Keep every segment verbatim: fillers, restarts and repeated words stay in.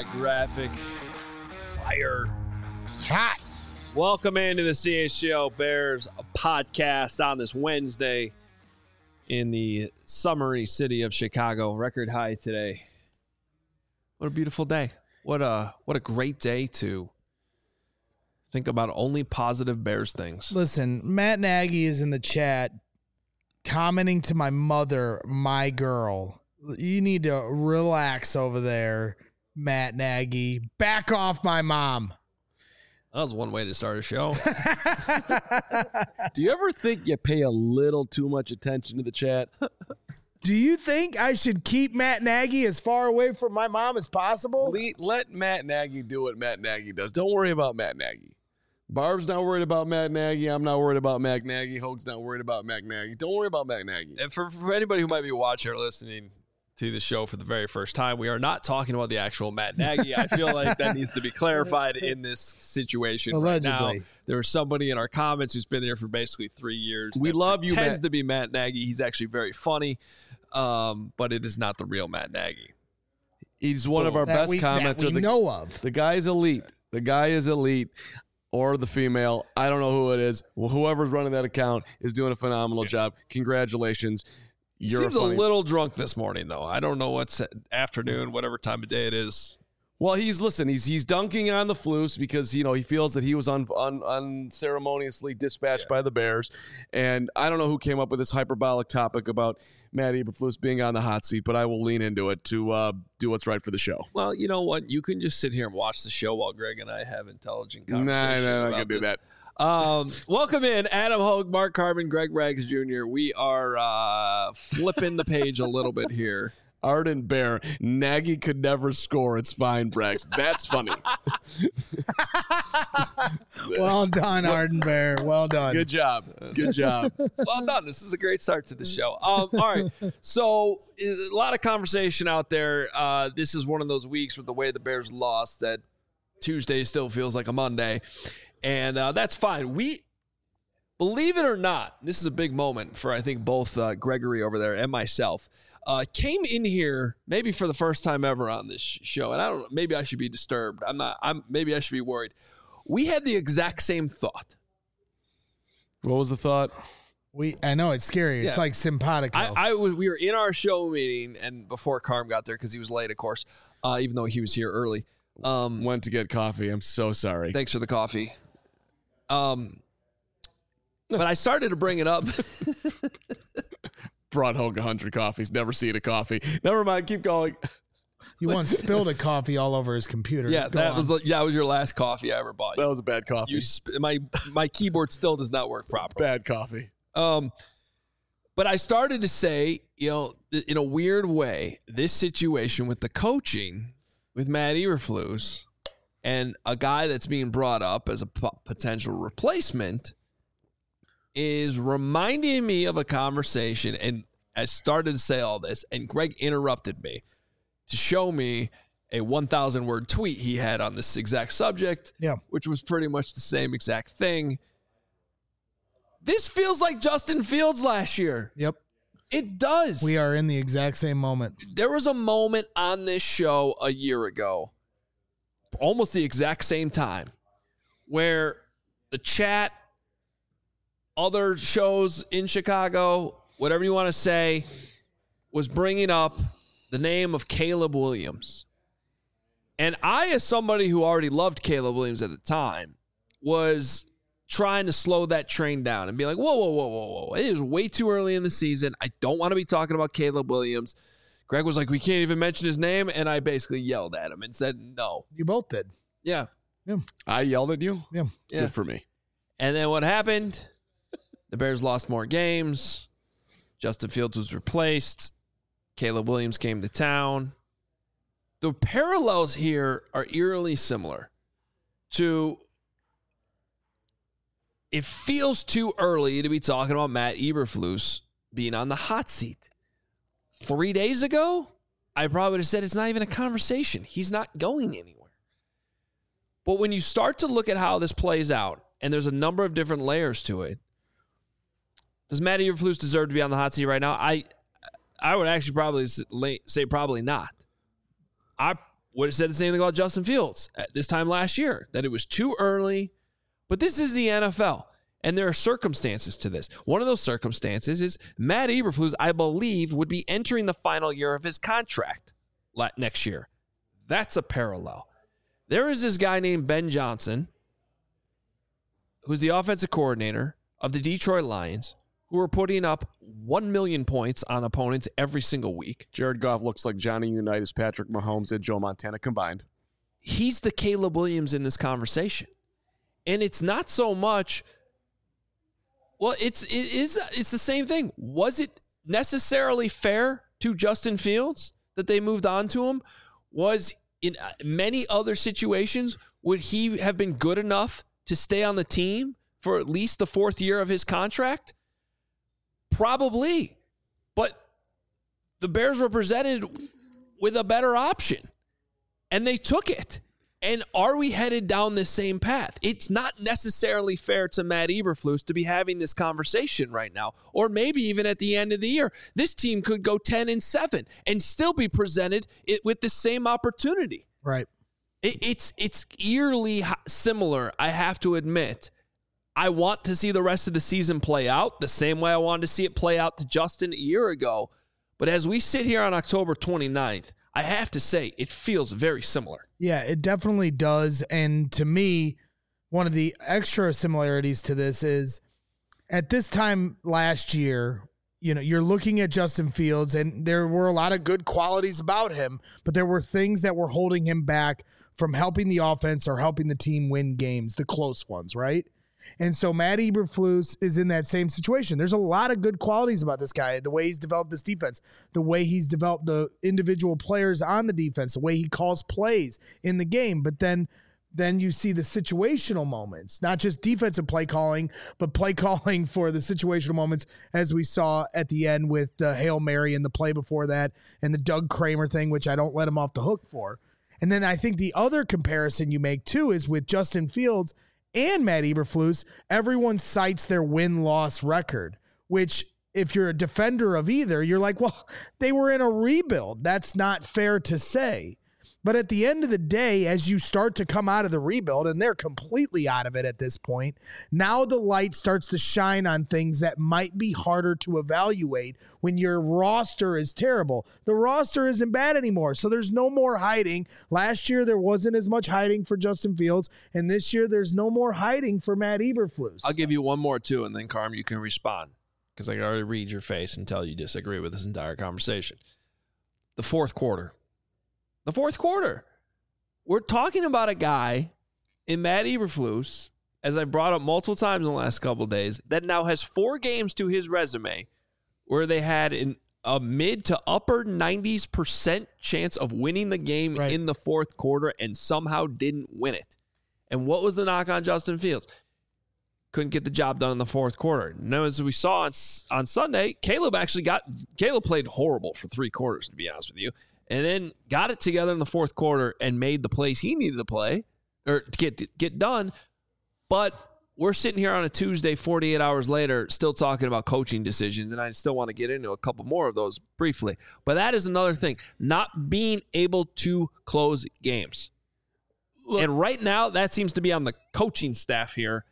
that graphic. Fire. Hot. Welcome into the C H G O Bears podcast on this Wednesday in the summery city of Chicago. Record high today. What a beautiful day. What a what a great day to think about only positive Bears things. Listen, Matt Nagy is in the chat commenting to my mother, my girl. You need to relax over there, Matt Nagy. Back off my mom. That was one way to start a show. Do you ever think you pay a little too much attention to the chat? Do you think I should keep Matt Nagy as far away from my mom as possible? Let Matt Nagy do what Matt Nagy does. Don't worry about Matt Nagy. Barb's not worried about Matt Nagy. I'm not worried about Matt Nagy. Hoag's not worried about Matt Nagy. Don't worry about Matt Nagy. And for, for anybody who might be watching or listening to the show for the very first time, we are not talking about the actual Matt Nagy. I feel like that needs to be clarified in this situation. Allegedly. Right now, there was somebody in our comments who's been there for basically three years. We love you, Tends Matt. to be Matt Nagy. He's actually very funny, um, but it is not the real Matt Nagy. He's one of our That best we, that commenters. we The, know of. the guy is elite. The guy is elite. Or the female. I don't know who it is. Well, whoever's running that account is doing a phenomenal job. Congratulations. You're Seems a, a funny- little drunk this morning, though. I don't know what's afternoon, whatever time of day it is. Well, he's listen. He's he's dunking on the Flus because you know he feels that he was un, un, unceremoniously dispatched Yeah. by the Bears, and I don't know who came up with this hyperbolic topic about Matt Eberflus being on the hot seat, but I will lean into it to uh, do what's right for the show. Well, you know what? You can just sit here and watch the show while Greg and I have intelligent Nah, conversation. nah, I'm not about gonna do this. that. Um, welcome in, Adam Hogue, Mark Carbon, Greg Rags Junior We are uh, flipping the page a little bit here. Arden Bear, Nagy could never score. It's fine, Brex. That's funny. Well done, Arden Bear. Well done. Good job. Good job. Well done. This is a great start to the show. Um, all right. So a lot of conversation out there. Uh, this is one of those weeks with the way the Bears lost that Tuesday still feels like a Monday. And uh, that's fine. We, believe it or not, this is a big moment for, I think, both uh, Gregory over there and myself. Uh, came in here maybe for the first time ever on this sh- show. And I don't know, maybe I should be disturbed. I'm not, I'm maybe I should be worried. We had the exact same thought. What was the thought? We, I know it's scary. It's Yeah. like simpatico. I, I was, we were in our show meeting, and before Carm got there, because he was late, of course, uh, even though he was here early. Um, Went to get coffee. I'm so sorry. thanks for the coffee. Um, but I started to bring it up. Brought Hogue a hundred coffees. Never seen a coffee. Never mind. Keep going. you once spilled a coffee all over his computer. yeah, Go that on. was the- yeah, that was your last coffee I ever bought. That was a bad coffee. You sp- my my keyboard still does not work properly. Bad coffee. Um, but I started to say, you know, th- in a weird way, this situation with the coaching with Matt Eberflus and a guy that's being brought up as a p- potential replacement is reminding me of a conversation. And I started to say all this, and Greg interrupted me to show me a one thousand word tweet he had on this exact subject, Yeah. which was pretty much the same exact thing. This feels like Justin Fields last year. Yep. It does. We are in the exact same moment. There was a moment on this show a year ago, almost the exact same time, where the chat, other shows in Chicago, whatever you want to say, was bringing up the name of Caleb Williams. And I, as somebody who already loved Caleb Williams at the time, was trying to slow that train down and be like, whoa, whoa, whoa, whoa, whoa. It is way too early in the season. I don't want to be talking about Caleb Williams. Greg was like, we can't even mention his name. And I basically yelled at him and said, no. You both did. Yeah. I yelled at you? Yeah. Yeah. Good for me. And then what happened? The Bears lost more games. Justin Fields was replaced. Caleb Williams came to town. The parallels here are eerily similar to it feels too early to be talking about Matt Eberflus being on the hot seat. Three days ago, I probably would have said it's not even a conversation. He's not going anywhere. But when you start to look at how this plays out, and there's a number of different layers to it, does Matt Eberflus deserve to be on the hot seat right now? I I would actually probably say probably not. I would have said the same thing about Justin Fields at this time last year, that it was too early. But this is the N F L, and there are circumstances to this. One of those circumstances is Matt Eberflus, I believe, would be entering the final year of his contract next year. That's a parallel. There is this guy named Ben Johnson, who's the offensive coordinator of the Detroit Lions, who are putting up one million points on opponents every single week. Jared Goff looks like Johnny Unitas, Patrick Mahomes, and Joe Montana combined. He's the Caleb Williams in this conversation. And it's not so much, well, it's it is it's the same thing. Was it necessarily fair to Justin Fields that they moved on to him? Was in many other situations, would he have been good enough to stay on the team for at least the fourth year of his contract? Probably. But the Bears were presented with a better option, and they took it. And are we headed down this same path? It's not necessarily fair to Matt Eberflus to be having this conversation right now. Or maybe even at the end of the year, this team could go ten and seven and still be presented it with the same opportunity. Right. It, it's it's eerily similar, I have to admit. I want to see the rest of the season play out the same way I wanted to see it play out to Justin a year ago. But as we sit here on October twenty-ninth, I have to say it feels very similar. Yeah, it definitely does. And to me, one of the extra similarities to this is at this time last year, you know, you're looking at Justin Fields, and there were a lot of good qualities about him, but there were things that were holding him back from helping the offense or helping the team win games, the close ones, right? And so Matt Eberflus is in that same situation. There's a lot of good qualities about this guy, the way he's developed this defense, the way he's developed the individual players on the defense, the way he calls plays in the game. But then then you see the situational moments, not just defensive play calling, but play calling for the situational moments, as we saw at the end with the Hail Mary and the play before that and the Doug Kramer thing, which I don't let him off the hook for. And then I think the other comparison you make, too, is with Justin Fields and Matt Eberflus. Everyone cites their win-loss record, which if you're a defender of either, you're like, well, they were in a rebuild. That's not fair to say. But at the end of the day, as you start to come out of the rebuild, and they're completely out of it at this point, now the light starts to shine on things that might be harder to evaluate when your roster is terrible. The roster isn't bad anymore, so there's no more hiding. Last year, there wasn't as much hiding for Justin Fields, and this year, there's no more hiding for Matt Eberflus. I'll give you one more, too, and then, Carm, you can respond, because I can already read your face and tell you disagree with this entire conversation. The fourth quarter. The fourth quarter. We're talking about a guy in Matt Eberflus, as I brought up multiple times in the last couple of days, that now has four games to his resume where they had an, a mid to upper nineties percent chance of winning the game right in the fourth quarter and somehow didn't win it. And what was the knock on Justin Fields? Couldn't get the job done in the fourth quarter. Now, as we saw on, on Sunday, Caleb actually got – Caleb played horrible for three quarters, to be honest with you. And then got it together in the fourth quarter and made the plays he needed to play or to get get done. But we're sitting here on a Tuesday, forty-eight hours later, still talking about coaching decisions, and I still want to get into a couple more of those briefly. But that is another thing, not being able to close games. Look, and right now, that seems to be on the coaching staff here,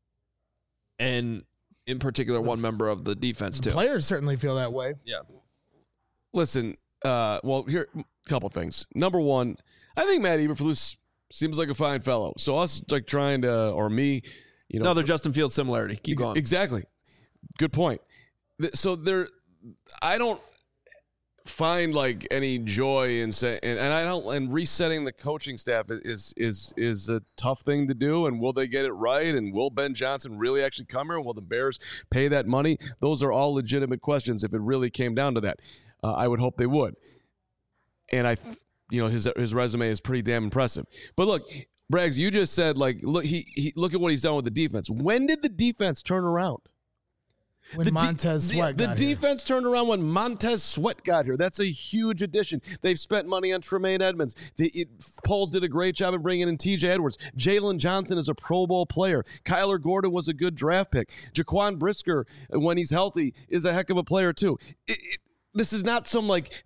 and in particular, one member of the defense, too. Players certainly feel that way. Yeah. Listen, Uh, well, here, a couple things. Number one, I think Matt Eberflus seems like a fine fellow. So us like trying to, or me, you know. Another tr- Justin Fields similarity. Keep going. Exactly. Good point. So there, I don't find like any joy in saying, and, and I don't, and resetting the coaching staff is, is, is a tough thing to do. And will they get it right? And will Ben Johnson really actually come here? Will the Bears pay that money? Those are all legitimate questions if it really came down to that. Uh, I would hope they would. And I, you know, his his resume is pretty damn impressive. But look, Braggs, you just said, like, look, he, he look at what he's done with the defense. When did the defense turn around? When the Montez de- Sweat the, got the here. defense turned around when Montez Sweat got here. That's a huge addition. They've spent money on Tremaine Edmonds. The it, Poles did a great job of bringing in T J Edwards. Jalen Johnson is a Pro Bowl player. Kyler Gordon was a good draft pick. Jaquan Brisker, when he's healthy, is a heck of a player too. It, it, This is not some, like, he's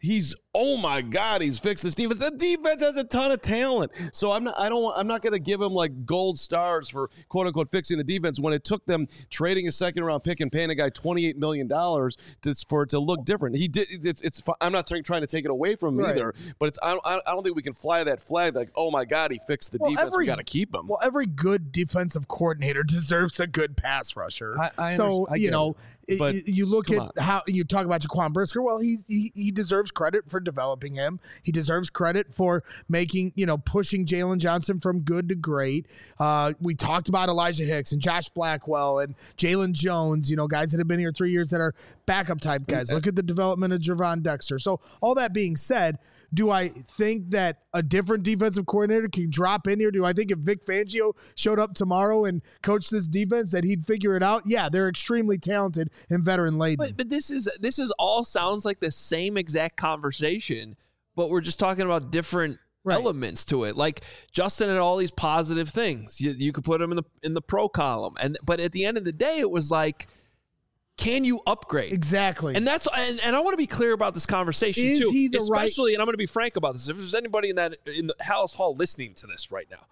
oh my God, he's fixed this defense. The defense has a ton of talent. So I'm not I don't want, I'm not going to give him like gold stars for quote unquote fixing the defense when it took them trading a second round pick and paying a guy twenty-eight million dollars to, for it to look different. He did it's, it's I'm not trying to take it away from him right. either, but it's I don't, I don't think we can fly that flag like, oh my God, he fixed the well, defense. Every, we got to keep him. Well, every good defensive coordinator deserves a good pass rusher. I, I so, you know, it. But you look at on. how you talk about Jaquan Brisker. Well, he, he he deserves credit for developing him. He deserves credit for making, you know, pushing Jalen Johnson from good to great. Uh, we talked about Elijah Hicks and Josh Blackwell and Jalen Jones, you know, guys that have been here three years that are backup type guys. Look at the development of Javon Dexter. So all that being said, do I think that a different defensive coordinator can drop in here? Do I think if Vic Fangio showed up tomorrow and coached this defense that he'd figure it out? Yeah, they're extremely talented and veteran laden. But, but this is this is all sounds like the same exact conversation, but we're just talking about different right. elements to it. Like Justin had all these positive things. You, you could put him in the in the pro column, and but at the end of the day, it was like, can you upgrade? Exactly. And that's and, and I want to be clear about this conversation Is too. He the especially, right- and I'm going to be frank about this. If there's anybody in that in the Hallis Hall listening to this right now,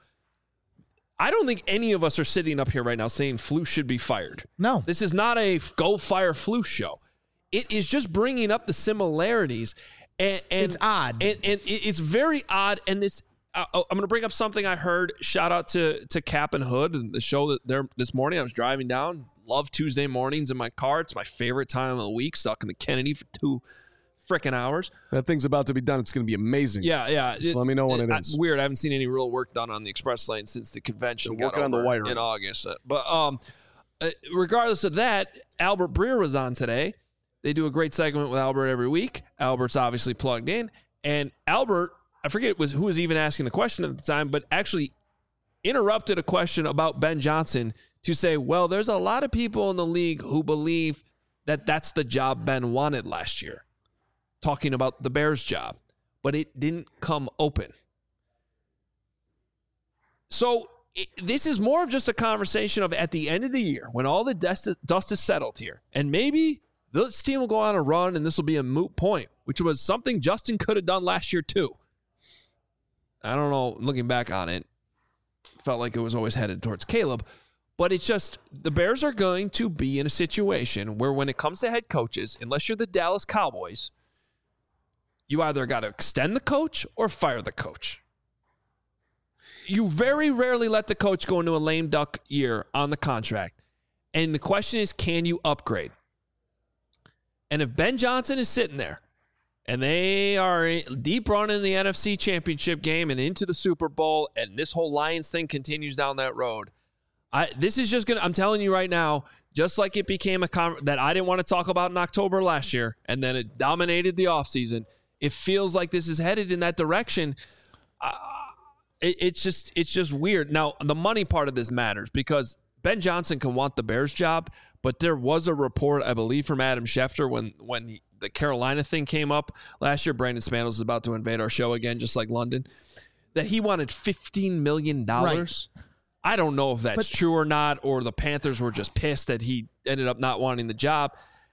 I don't think any of us are sitting up here right now saying Flus should be fired. No. This is not a go fire Flus show. It is just bringing up the similarities. And, and it's odd. And, and it's very odd. And this, uh, I'm going to bring up something I heard. Shout out to to Cap and Hood and the show that there this morning. I was driving down. Love Tuesday mornings in my car. It's my favorite time of the week. Stuck in the Kennedy for two freaking hours. That thing's about to be done. It's going to be amazing. Yeah, yeah. Just it, let me know when it, it is. Weird. I haven't seen any real work done on the express lane since the convention. They're working on the wiring in August. But um, regardless of that, Albert Breer was on today. They do a great segment with Albert every week. Albert's obviously plugged in, and Albert, I forget it was who was even asking the question at the time, but actually interrupted a question about Ben Johnson to say, well, there's a lot of people in the league who believe that that's the job Ben wanted last year, talking about the Bears job, but it didn't come open. So it, this is more of just a conversation of at the end of the year, when all the dust is, dust is settled here, and maybe this team will go on a run and this will be a moot point, which was something Justin could have done last year too. I don't know, looking back on it, felt like it was always headed towards Caleb. But it's just, the Bears are going to be in a situation where when it comes to head coaches, unless you're the Dallas Cowboys, you either got to extend the coach or fire the coach. You very rarely let the coach go into a lame duck year on the contract. And the question is, can you upgrade? And if Ben Johnson is sitting there and they are deep run in the N F C Championship game and into the Super Bowl, and this whole Lions thing continues down that road, I, this is just going to, I'm telling you right now, just like it became a con- that I didn't want to talk about in October last year, and then it dominated the offseason, it feels like this is headed in that direction. Uh, it, it's just it's just weird. Now, the money part of this matters because Ben Johnson can want the Bears job, but there was a report, I believe, from Adam Schefter when, when he, the Carolina thing came up last year. Brandon Spanos is about to invade our show again, just like London, that he wanted fifteen million dollars. Right. I don't know if that's but, true or not, or the Panthers were just pissed that he ended up not wanting the job.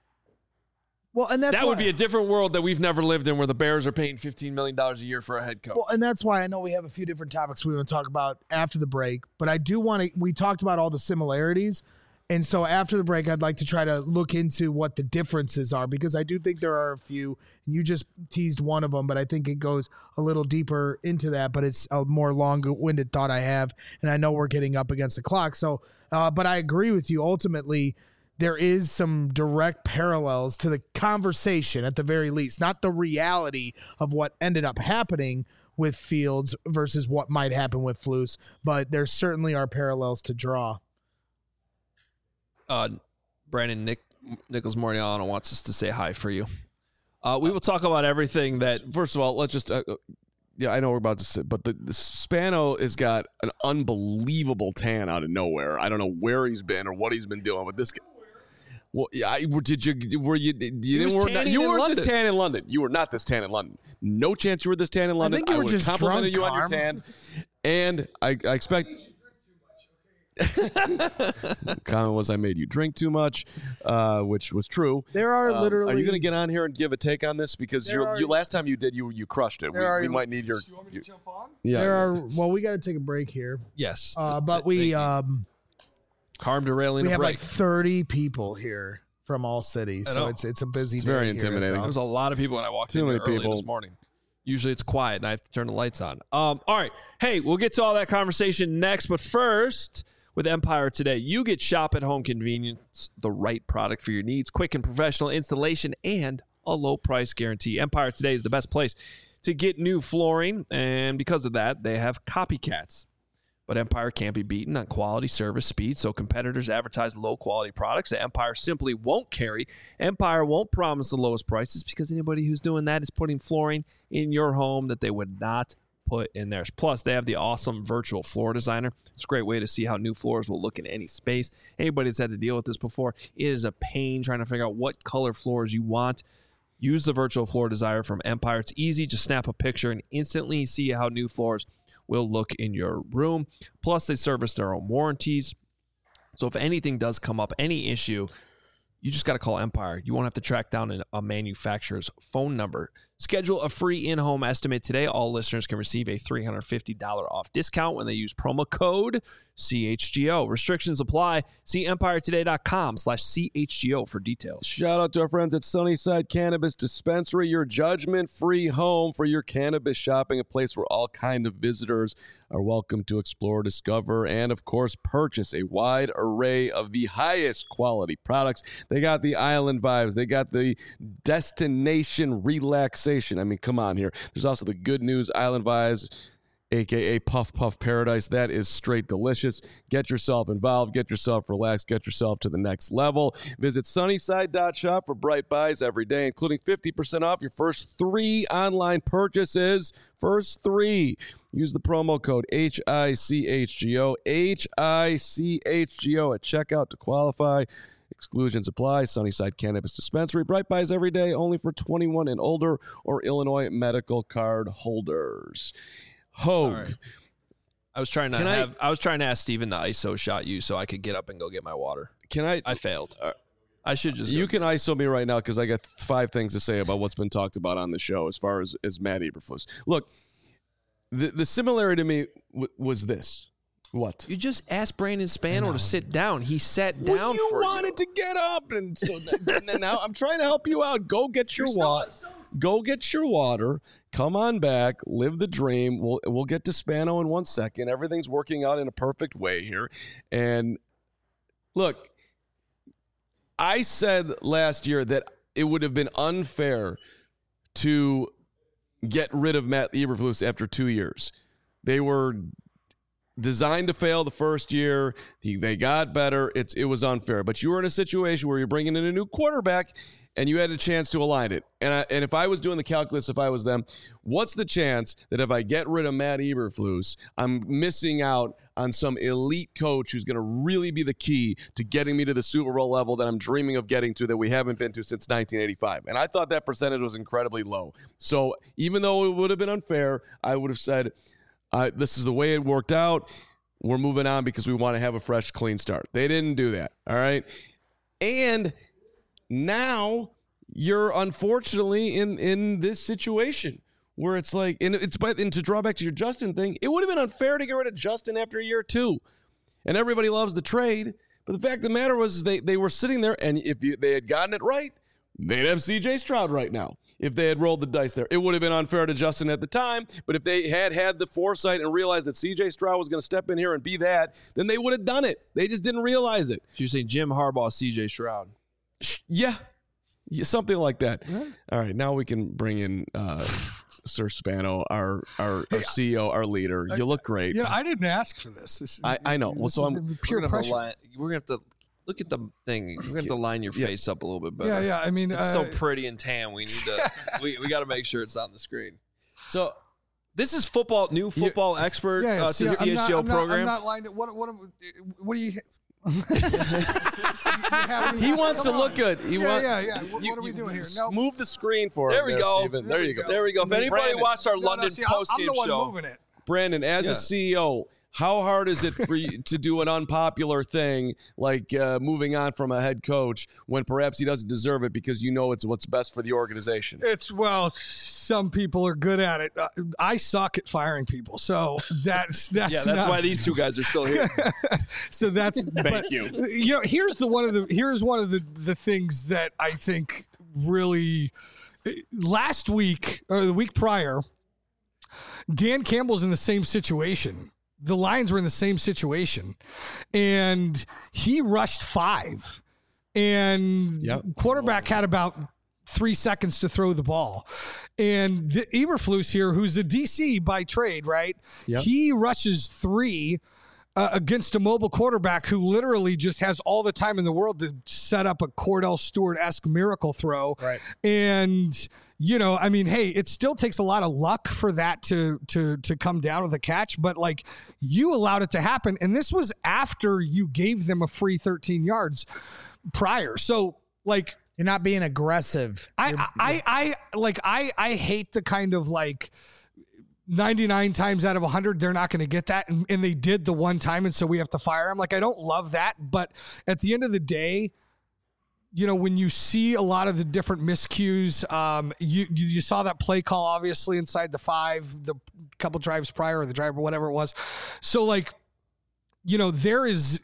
Well, and that's that why, would be a different world that we've never lived in, where the Bears are paying fifteen million dollars a year for a head coach. Well, and that's why I know we have a few different topics we want to talk about after the break, but I do want to, we talked about all the similarities. And so after the break, I'd like to try to look into what the differences are, because I do think there are a few. You just teased one of them, but I think it goes a little deeper into that, but it's a more long-winded thought I have, and I know we're getting up against the clock. So, uh, but I agree with you. Ultimately, there is some direct parallels to the conversation at the very least, not the reality of what ended up happening with Fields versus what might happen with Flus, but there certainly are parallels to draw. Uh, Brandon Nick Nichols Moriano wants us to say hi for you. Uh, we will talk about everything that. First of all, let's just. Uh, yeah, I know we're about to sit, but the, the Spano has got an unbelievable tan out of nowhere. I don't know where he's been or what he's been doing, but this. Guy, well, yeah, I, did you were you you didn't were not, you were this tan in London. You were not this tan in London. No chance you were this tan in London. I think you were I just complimented drunk, you on your tan, and I, I expect. Comment was I made you drink too much, uh, which was true. There are Um, literally. Are you going to get on here and give a take on this? Because There you are- you last time you did, you you crushed it. We, There are- we might need your. You want me you- to jump on? yeah. There are. Well, we got to take a break here. Yes. Uh, but Thank we you. um Carm derailing we a have break. like thirty people here from all cities, I so know. it's it's a busy. It's day very here at intimidating. the There was a lot of people when I walked Too in many here early people. this morning. Usually it's quiet and I have to turn the lights on. Um, all right. Hey, we'll get to all that conversation next. But first, with Empire Today, you get shop at home convenience, the right product for your needs, quick and professional installation, and a low price guarantee. Empire Today is the best place to get new flooring. And because of that, they have copycats. But Empire can't be beaten on quality, service, speed, so competitors advertise low-quality products that Empire simply won't carry. Empire won't promise the lowest prices because anybody who's doing that is putting flooring in your home that they would not put in theirs. Plus, they have the awesome virtual floor designer. It's a great way to see how new floors will look in any space. Anybody that's had to deal with this before, it is a pain trying to figure out what color floors you want. Use the virtual floor designer from Empire. It's easy. Just snap a picture and instantly see how new floors will look in your room. Plus, they service their own warranties. So if anything does come up, any issue, you just got to call Empire. You won't have to track down an, a manufacturer's phone number. Schedule a free in-home estimate today. All listeners can receive a three hundred fifty dollars off discount when they use promo code C H G O. Restrictions apply. See empiretoday.com slash CHGO for details. Shout out to our friends at Sunnyside Cannabis Dispensary, your judgment-free home for your cannabis shopping, a place where all kind of visitors are welcome to explore, discover, and, of course, purchase a wide array of the highest quality products. They got the island vibes. They got the destination relaxation. I mean, come on here. There's also the good news island vibes, a k a. Puff Puff Paradise. That is straight delicious. Get yourself involved. Get yourself relaxed. Get yourself to the next level. Visit sunnyside dot shop for bright buys every day, including fifty percent off your first three online purchases. First three. Use the promo code H I C H G O, H I C H G O at checkout to qualify. Exclusions apply. Sunnyside Cannabis Dispensary. Bright buys every day, only for twenty-one and older or Illinois medical card holders. Hogue. Sorry. I was trying to Can I- have I, was trying to ask Steven to I S O shot you so I could get up and go get my water. Can I? I failed. Uh, I should just You go. can I S O me right now because I got five things to say about what's been talked about on the show as far as, as Matt Eberflus. Look, the, the similarity to me w- was this. What? You just asked Brandon Spano to sit down. He sat down Well, you for wanted you. to get up, and so that, and then now I'm trying to help you out. Go get your water. Go get your water. Come on back. Live the dream. We'll we'll get to Spano in one second. Everything's working out in a perfect way here. And look, I said last year that it would have been unfair to get rid of Matt Eberflus after two years. They were designed to fail the first year. He, they got better. It's it was unfair. But you were in a situation where you're bringing in a new quarterback, and you had a chance to align it. And I, and if I was doing the calculus, if I was them, what's the chance that if I get rid of Matt Eberflus, I'm missing out on some elite coach who's going to really be the key to getting me to the Super Bowl level that I'm dreaming of getting to that we haven't been to since nineteen eighty-five. And I thought that percentage was incredibly low. So even though it would have been unfair, I would have said, uh, this is the way it worked out. We're moving on because we want to have a fresh, clean start. They didn't do that. All right. And now you're unfortunately in, in this situation where it's like, and it's but and to draw back to your Justin thing, it would have been unfair to get rid of Justin after a year or two. And everybody loves the trade. But the fact of the matter was they, they were sitting there, and if you, they had gotten it right, they'd have C J Stroud right now. If they had rolled the dice there, it would have been unfair to Justin at the time. But if they had had the foresight and realized that C J Stroud was going to step in here and be that, then they would have done it. They just didn't realize it. So you're saying Jim Harbaugh, C J Stroud. Yeah. Yeah, something like that. All right, now we can bring in uh, Sir Spano, our our, our C E O, our leader. You look great. Yeah, I didn't ask for this. this I- I know. Well, this so is I'm- pure We're gonna have to pressure. line- we're gonna have to look at the thing. We're gonna have to line your Yeah. face up a little bit better. Yeah, yeah. I mean, It's uh, so pretty and tan. We need to. we we got to make sure it's on the screen. So This is football, new football expert yeah. uh, see, to the I'm C H G O not, I'm not- program. I'm not lying. What? What? What do you? he wants to look good. He Yeah, want- yeah, yeah. What, You- what are we you doing here? s- No. Move the screen for There him we go. Steven. There, you go. There we go. If anybody Brandon. watched our No, no, London see, I'm- post I'm game the one show, moving it. Brandon, as Yeah. a C E O, how hard is it for you to do an unpopular thing like uh, moving on from a head coach when perhaps he doesn't deserve it because you know it's what's best for the organization? It's, well, some people are good at it. Uh, I suck at firing people. So that's, that's, Yeah, that's not, why these two guys are still here. so that's, Thank but, you. You know, here's the one of the, here's one of the, the things that I think really last week or the week prior, Dan Campbell's in the same situation. The Lions were in the same situation, and he rushed five, and Yep. quarterback had about three seconds to throw the ball. And the Eberflus here, who's a D C by trade, right? Yep. He rushes three uh, against a mobile quarterback who literally just has all the time in the world to set up a Cordell Stewart-esque miracle throw. Right. And you know, I mean, hey, it still takes a lot of luck for that to to to come down with a catch, but like you allowed it to happen, and this was after you gave them a free thirteen yards prior. So like You're not being aggressive. I You're- I, I I like I I hate the kind of like ninety-nine times out of one hundred they're not going to get that, and, and they did the one time, and so we have to fire them. Like I don't love that, but at the end of the day, you know, when you see a lot of the different miscues, um, you, you you saw that play call obviously inside the five, the couple drives prior, or the drive or whatever it was. So like, you know, there is,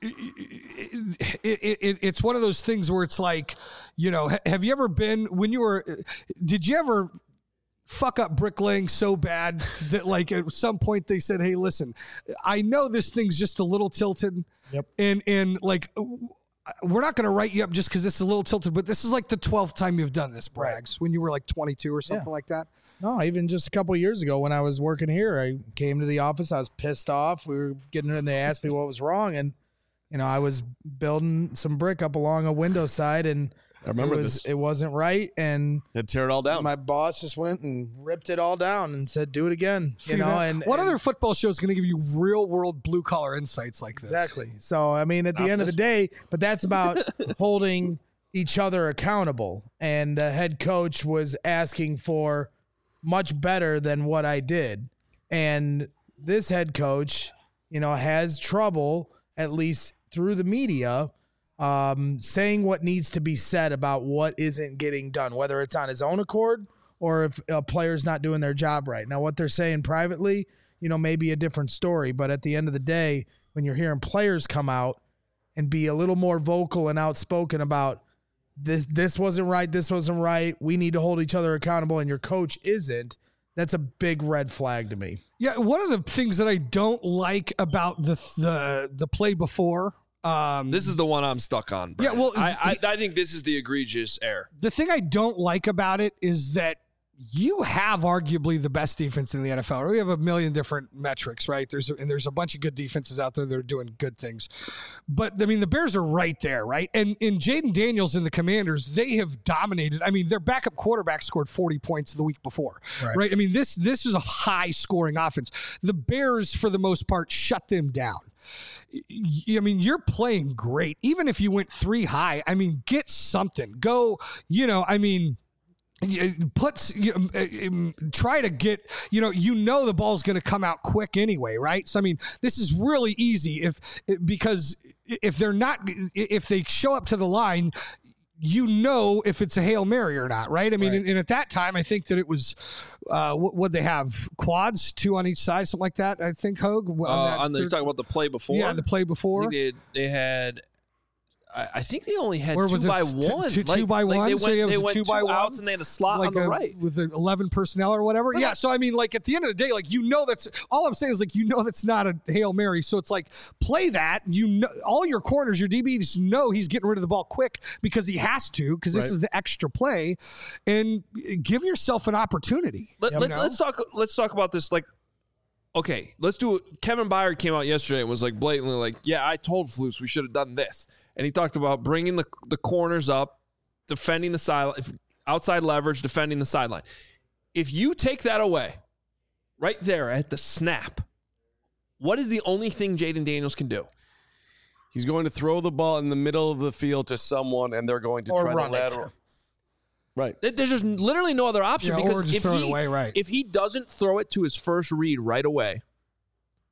it, it, it, it's one of those things where it's like, you know, ha- have you ever been when you were, did you ever fuck up bricklaying so bad that like at some point they said, hey, listen, I know this thing's just a little tilted. Yep. And, and like, we're not going to write you up just because this is a little tilted, but this is like the twelfth time you've done this, Braggs, when you were like twenty-two or something Yeah. like that. No, even just a couple of years ago when I was working here, I came to the office. I was pissed off. We were getting in. They asked me what was wrong, and you know I was building some brick up along a window side, and I remember it was this. it wasn't right, and Had to tear it all down. my boss just went and ripped it all down and said, "Do it again." See you know, that? and what and- other football show is going to give you real world blue collar insights like this? Exactly. So, I mean, at the end of the day, but that's about holding each other accountable. And the head coach was asking for much better than what I did. And this head coach, you know, has trouble, at least through the media, um, saying what needs to be said about what isn't getting done, whether it's on his own accord or if a player's not doing their job right. Now, what they're saying privately, you know, may be a different story, but at the end of the day, when you're hearing players come out and be a little more vocal and outspoken about this, this wasn't right, this wasn't right, we need to hold each other accountable, and your coach isn't, that's a big red flag to me. Yeah, one of the things that I don't like about the the the play before. Um, This is the one I'm stuck on. Yeah, Brian. well, I, I I think this is the egregious error. the thing I don't like about it is that you have arguably the best defense in the N F L. We have a million different metrics, right? There's a, and there's a bunch of good defenses out there that are doing good things. But I mean, the Bears are right there, right? And in Jaden Daniels and the Commanders, they have dominated. I mean, their backup quarterback scored forty points the week before, right? right? I mean, this this is a high scoring offense. The Bears, for the most part, shut them down. I mean, you're playing great. Even if you went three high, I mean, get something. Go, you know, I mean, puts you know, try to get you know you know the ball's going to come out quick anyway, right? So I mean, this is really easy if because if they're not if they show up to the line, you know if it's a Hail Mary or not, right? I mean, Right. And, and at that time, I think that it was uh, what would they have quads, two on each side, something like that. I think Hogue on, Uh, that on the, you're third- talking about the play before. yeah, the play I before. think they, they had. I, I think they only had Or two was it by t- one. two- two Like- by like one? They So went, it was they a went two two by one? outs and they had a slot like on the a, right. with the eleven personnel or whatever. Yeah. So I mean, like at the end of the day, like you know that's all I'm saying is like you know that's not a Hail Mary. So it's like play that. You know all your corners, your D Bs know he's getting rid of the ball quick because he has to because this Right. is the extra play, and give yourself an opportunity. Let, you let, know? let's talk. Let's talk about this. Like, okay, let's do it. Kevin Byard came out yesterday and was like blatantly like, "Yeah, I told Flus we should have done this," and he talked about bringing the the corners up, defending the side, outside leverage, defending the sideline. If you take that away, right there at the snap, what is the only thing Jaden Daniels can do? He's going to throw the ball in the middle of the field to someone, and they're going to Or try run to it. lateral. Right. There- There's just literally no other option Yeah, or because just if throw it he, away, right. if he doesn't throw it to his first read right away,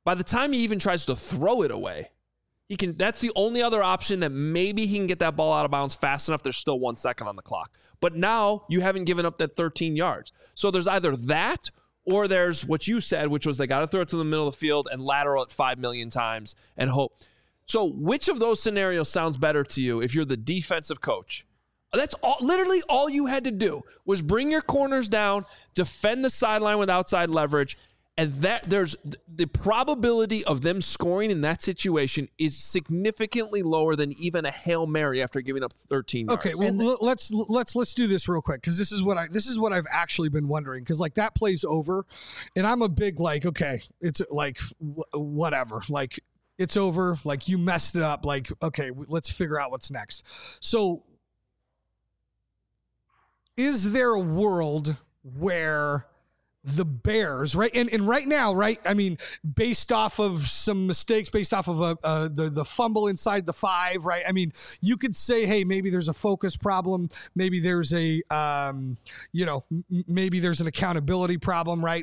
by the time he even tries to throw it away, he can. That's the only other option that maybe he can get that ball out of bounds fast enough. There's still one second on the clock. But now you haven't given up that thirteen yards. So there's either that or there's what you said, which was they got to throw it to the middle of the field and lateral it five million times and hope. So which of those scenarios sounds better to you if you're the defensive coach? That's all, literally all you had to do was bring your corners down, defend the sideline with outside leverage, and that there's the probability of them scoring in that situation is significantly lower than even a Hail Mary after giving up thirteen yards. Okay, well l- let's let's let's do this real quick because this is what I this is what I've actually been wondering because like that plays over, and I'm a big like okay it's like w- whatever like it's over like you messed it up like okay let's figure out what's next. So is there a world where the Bears, right? And and right now, right? I mean, based off of some mistakes, based off of a, uh, the, the fumble inside the five, right? I mean, you could say, hey, maybe there's a focus problem. Maybe there's a, um, you know, m- maybe there's an accountability problem, right?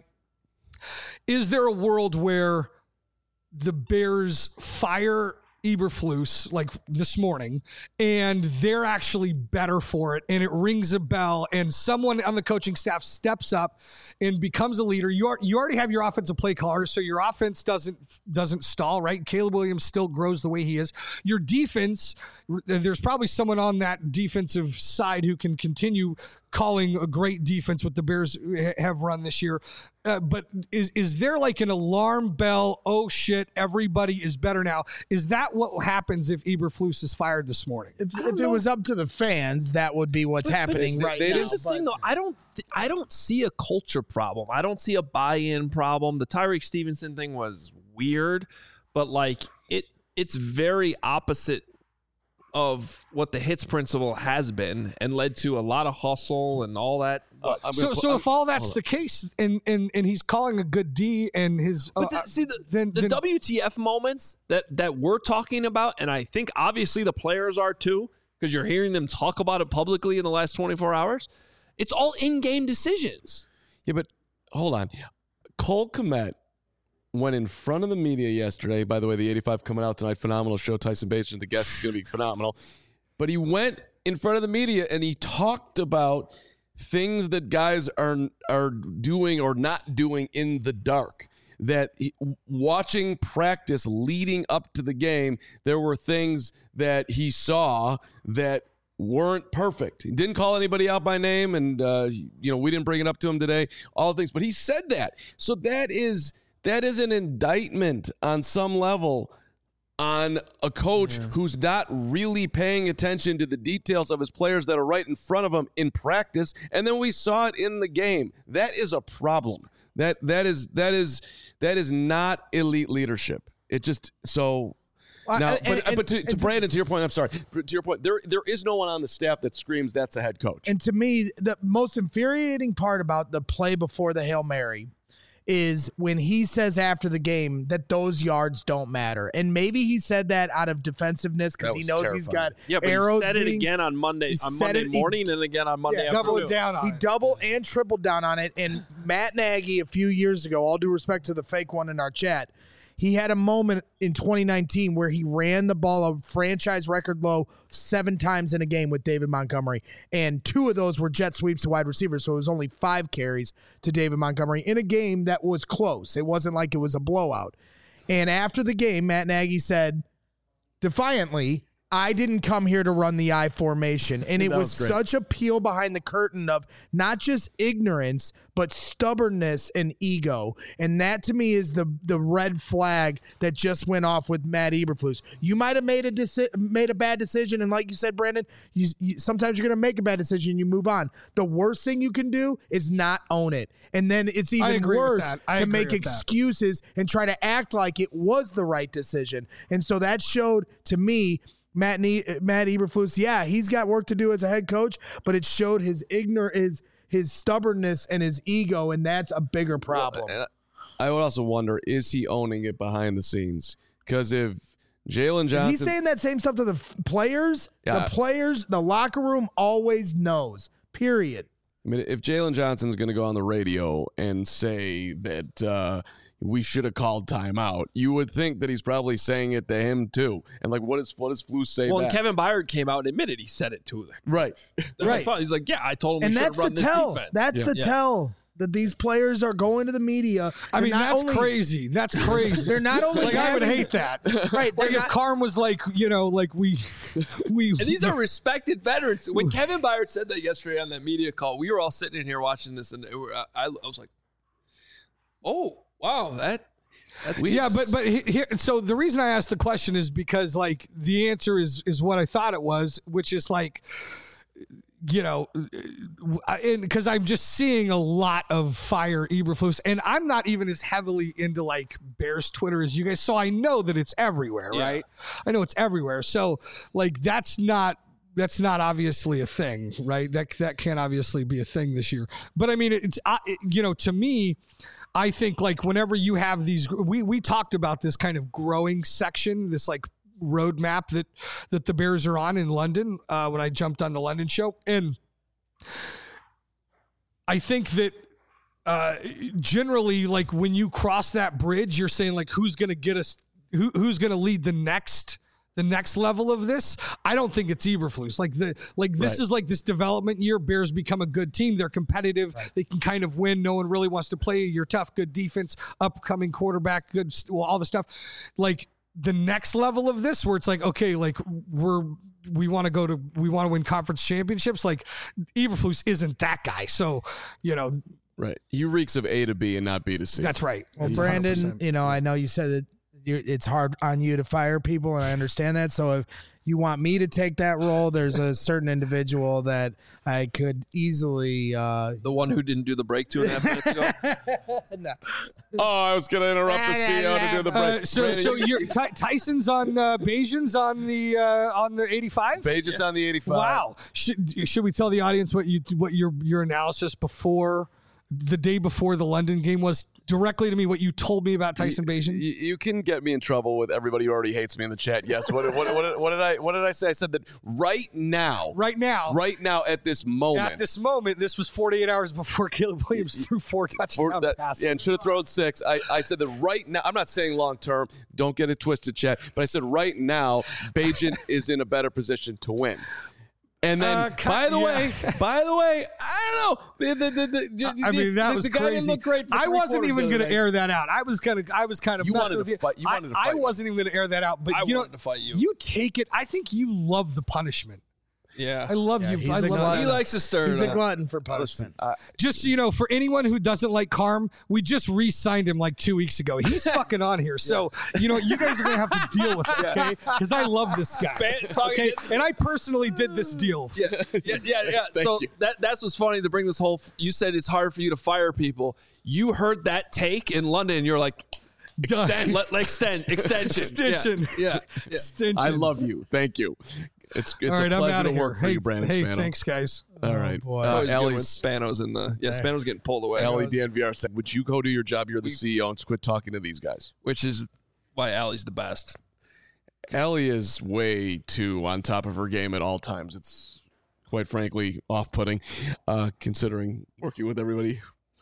Is there a world where the Bears fire Eberflus like this morning and they're actually better for it and it rings a bell and someone on the coaching staff steps up and becomes a leader? You are you already have your offensive play caller, so your offense doesn't doesn't stall, right? Caleb Williams still grows the way he is. Your defense, there's probably someone on that defensive side who can continue calling a great defense what the Bears have run this year. Uh, but is is there like an alarm bell? Oh shit, everybody is better now. Is that what happens if Eberflus is fired this morning? If, if it was up to the fans, that would be what's But- happening but right here's now. the but- thing, though. I don't, th- I don't see a culture problem. I don't see a buy-in problem. The Tyreek Stevenson thing was weird, but like it, it's very opposite of what the hits principle has been and led to a lot of hustle and all that. Uh, I'm So, gonna put- so I'm- if all that's hold the case, and, and and he's calling a good D, and his But uh, the, see the, then, the then, W T F moments that that we're talking about, and I think obviously the players are too, because you're hearing them talk about it publicly in the last twenty-four hours. It's all in-game decisions. Yeah, but hold on. Cole Kmet went in front of the media yesterday. By the way, the eighty-five coming out tonight. Phenomenal show. Tyson Bates, the guest, is going to be phenomenal. But he went in front of the media and he talked about things that guys are are doing or not doing in the dark. That he, watching practice leading up to the game, there were things that he saw that weren't perfect. He didn't call anybody out by name, and uh, you know we didn't bring it up to him today. All the things, but he said that. So that is that is an indictment on some level on a coach yeah. who's not really paying attention to the details of his players that are right in front of him in practice, and then we saw it in the game. That is a problem. That that is that is that is not elite leadership. It just so. Now, Uh, but, and- and- but to, to and- Brandon, to your point, I'm sorry. To your point, there there is no one on the staff that screams that's a head coach. And to me, the most infuriating part about the play before the Hail Mary is when he says after the game that those yards don't matter. And maybe he said that out of defensive-ness because That he was knows he's got Yeah, but arrows. he said it being- again on Monday, he on said Monday it- he- morning, and again on Monday Yeah, afternoon. double it down on He it. doubled and tripled down on it. And Matt Nagy, a few years ago, all due respect to the fake one in our chat, he had a moment in twenty nineteen where he ran the ball a franchise record low seven times in a game with David Montgomery. And two of those were jet sweeps to wide receivers. So it was only five carries to David Montgomery in a game that was close. It wasn't like it was a blowout. And after the game, Matt Nagy said defiantly, I didn't come here to run the I formation. And it That was, was great. such a peel behind the curtain of not just ignorance, but stubbornness and ego. And that to me is the the red flag that just went off with Matt Eberflus. You might have made a deci- made a bad decision. And like you said, Brandon, you, you, sometimes you're going to make a bad decision and you move on. The worst thing you can do is not own it. And then it's I even agree with worse that. I to agree make with that. excuses and try to act like it was the right decision. And so that showed to me Matt ne- Matt Eberflus, yeah, he's got work to do as a head coach, but it showed his ignor his his stubbornness and his ego, and that's a bigger problem. And I would also wonder, is he owning it behind the scenes? Because if Jalen Johnson, He's saying that same stuff to the f- players. Yeah. The players, the locker room always knows. Period. I mean, if Jalen Johnson's going to go on the radio and say that uh, we should have called timeout, you would think that he's probably saying it to him too. And like, what does what does Flus say? Well, back? and Kevin Byard came out and admitted he said it to them. Right, Right. He's like, yeah, I told him And we should that's run the this tell. defense. That's Yeah. the Yeah. tell that these players are going to the media. I and mean, not that's only- crazy. That's crazy. They're not only like I would having- hate that. Right. Like they're if not- Carm was like, you know, like we, we. And these are respected veterans. When Kevin Byard said that yesterday on that media call, we were all sitting in here watching this, and it were, I, I was like, "Oh, wow, that." That's We- Yeah, but but he- here, so the reason I asked the question is because like the answer is is what I thought it was, which is like, you know, because I'm just seeing a lot of fire Eberflus, and I'm not even as heavily into like Bears Twitter as you guys, so I know that it's everywhere, Yeah. right? I know it's everywhere, so like that's not. That's not obviously a thing, right? That that can't obviously be a thing this year. But I mean, it's uh, it, you know, to me, I think like whenever you have these, we we talked about this kind of growing section, this like roadmap that that the Bears are on in London uh, when I jumped on the London show, and I think that uh, generally, like when you cross that bridge, you're saying like who's going to get us, who who's going to lead the next. The next level of this, I don't think it's Eberflus. Like the like this Right. is like this development year. Bears become a good team. They're competitive. Right. They can kind of win. No one really wants to play. You're tough, good defense, upcoming quarterback, good, well, all the stuff. Like the next level of this, where it's like, okay, like we're we want to go to we want to win conference championships. Like Eberflus isn't that guy. So you know, right. He reeks of A to B and not B to C. that's right. Well, That's Brandon, one hundred percent. you know, I know you said that you, it's hard on you to fire people, and I understand that. So if you want me to take that role, there's a certain individual that I could easily. Uh, the one who didn't do the break two and a half minutes ago. no. Oh, I was going to interrupt the C E O to do the break. Uh, so, so you're, Ty- Tyson's on uh, Bayesian's on the uh, on the eighty-five. Pages on the eighty-five. Wow. Should should we tell the audience what you what your your analysis before the day before the London game was directly to me? What you told me about Tyson Bayesian? You, you can get me in trouble with everybody who already hates me in the chat. Yes. What, what, what, what did I what did I say? I said that right now, Right now, right now at this moment, at this moment, this was forty-eight hours before Caleb Williams threw four touchdown for that, passes. yeah, and should have thrown six. I, I said that right now. I'm not saying long term. Don't get it twisted, chat. But I said right now, Bajan is in a better position to win. And then, Uh, ki- by the yeah. way, by the way, I don't know. The, the, the, the, I mean, that the, was the guy crazy. didn't look great. For I three wasn't quarters even of the going to night. air that out. I was kind of, I was kind of. You messing wanted with to fight- you I- wanted to I, fight me. wasn't even going to air that out. But I you know, wanted to fight you. You take it. I think you love the punishment. Yeah. I love Yeah, you. he's I a love glutton. He likes to stir He's it a up. glutton for Listen, punishment. I, Just so you know, for anyone who doesn't like Carm, we just re-signed him like two weeks ago. He's fucking on here, so you know you guys are gonna have to deal with it, okay? Because I love this guy. Span- talking- Okay, and I personally did this deal. Yeah, yeah, yeah. yeah. Thank so you. that that's what's funny to bring this whole. You said it's hard for you to fire people. You heard that take in London. You're like, Done. extend, let, like extend, extension, Extension. Yeah, yeah. yeah. Extension. I love you. Thank you. It's it's All right, a I'm pleasure out to of here. work for hey, you, Brandon hey, Spano. thanks, guys. All right, boy. uh, Always good when Ellie's, Spano's in the yeah. Spano's getting pulled away, Ellie D N V R said, "Would you go do your job? You're the C E O, and quit talking to these guys." which is why Allie's the best. Ellie is way too on top of her game at all times. It's quite frankly off-putting, uh, considering working with everybody.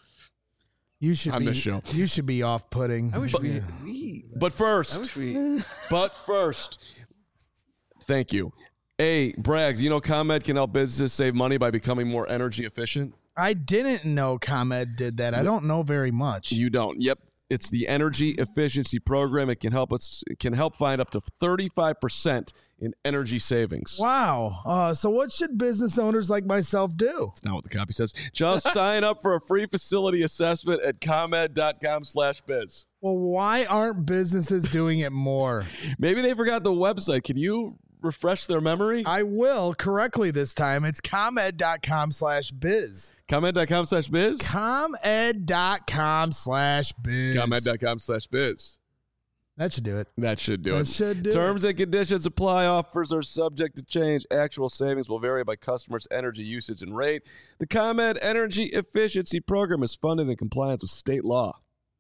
You should on be. this show. You should be off-putting. I wish we, we. But first, I wish we. but first, thank you. Hey, Braggs, you know ComEd can help businesses save money by becoming more energy efficient? I didn't know ComEd did that. I don't know very much. You don't. Yep. It's the energy efficiency program. It can help us it can help find up to thirty-five percent in energy savings. Wow. Uh, so what should business owners like myself do? That's not what the copy says. Just sign up for a free facility assessment at comed.com slash biz. Well, why aren't businesses doing it more? Maybe they forgot the website. Can you refresh their memory? I will correctly this time. It's comed.com slash biz. comed.com slash biz? comed.com slash biz. comed.com slash biz. That should do it. That should do That it. should do Terms and conditions apply. Offers are subject to change. Actual savings will vary by customers' energy usage and rate. The ComEd Energy Efficiency Program is funded in compliance with state law.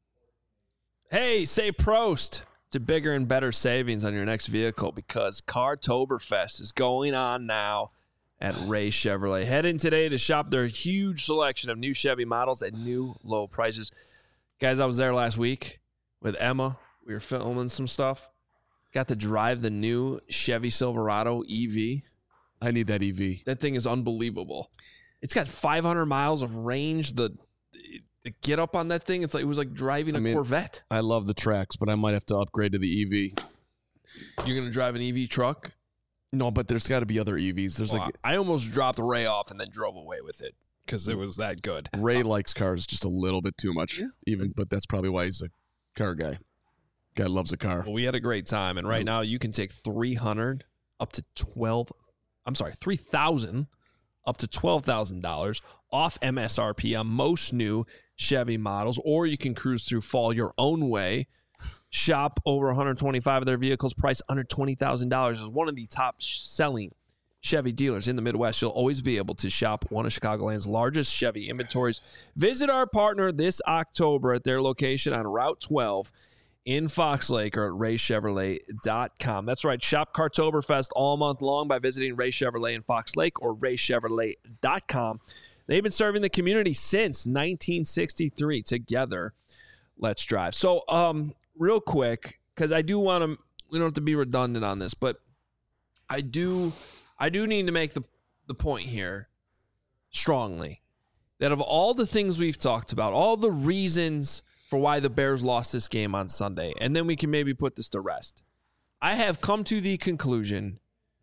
Hey, say Prost to bigger and better savings on your next vehicle because Cartoberfest is going on now. at Ray Chevrolet. Head in today to shop their huge selection of new Chevy models at new low prices. Guys, I was there last week with Emma. We were filming some stuff. Got to drive the new Chevy Silverado E V. I need that E V. That thing is unbelievable. It's got five hundred miles of range. The the get up on that thing, it's like it was like driving a I mean, Corvette. I love the tracks, but I might have to upgrade to the E V. You're gonna drive an E V truck? No, but there's got to be other E Vs. There's well, like I almost dropped Ray off and then drove away with it because it was that good. Ray um, likes cars just a little bit too much, yeah. even, but that's probably why he's a car guy. Guy loves a car. Well, we had a great time, and right now you can take three hundred up to twelve. I'm sorry, three thousand up to twelve thousand dollars off M S R P on most new Chevy models, or you can cruise through fall your own way. Shop over one hundred twenty-five of their vehicles priced under twenty thousand dollars. Is one of the top selling Chevy dealers in the Midwest. You'll always be able to shop one of Chicagoland's largest Chevy inventories. Visit our partner this October at their location on Route twelve in Fox Lake or at ray chevrolet dot com. That's right. Shop Cartoberfest all month long by visiting Ray Chevrolet in Fox Lake or ray chevrolet dot com. They've been serving the community since nineteen sixty-three. Together, let's drive. So, um, real quick, because I do want to, we don't have to be redundant on this, but I do, I do need to make the, the point here strongly that of all the things we've talked about, all the reasons for why the Bears lost this game on Sunday, and then we can maybe put this to rest, I have come to the conclusion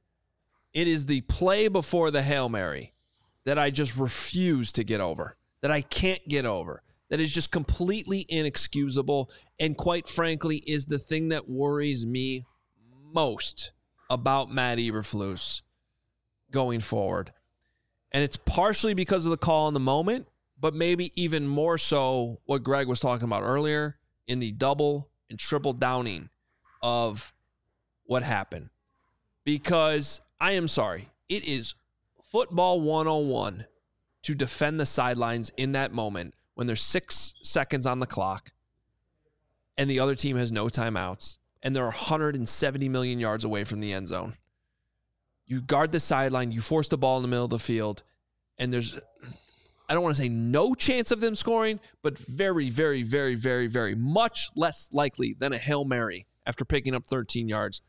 it is the play before the Hail Mary that I just refuse to get over, that I can't get over. That is just completely inexcusable and quite frankly is the thing that worries me most about Matt Eberflus going forward. And it's partially because of the call in the moment, but maybe even more so what Greg was talking about earlier in the double and triple downing of what happened. Because I am sorry, it is football one oh one to defend the sidelines in that moment when there's six seconds on the clock and the other team has no timeouts and they're one hundred seventy million yards away from the end zone. You guard the sideline, you force the ball in the middle of the field, and there's, I don't want to say no chance of them scoring, but very, very, very, very, very much less likely than a Hail Mary after picking up thirteen yards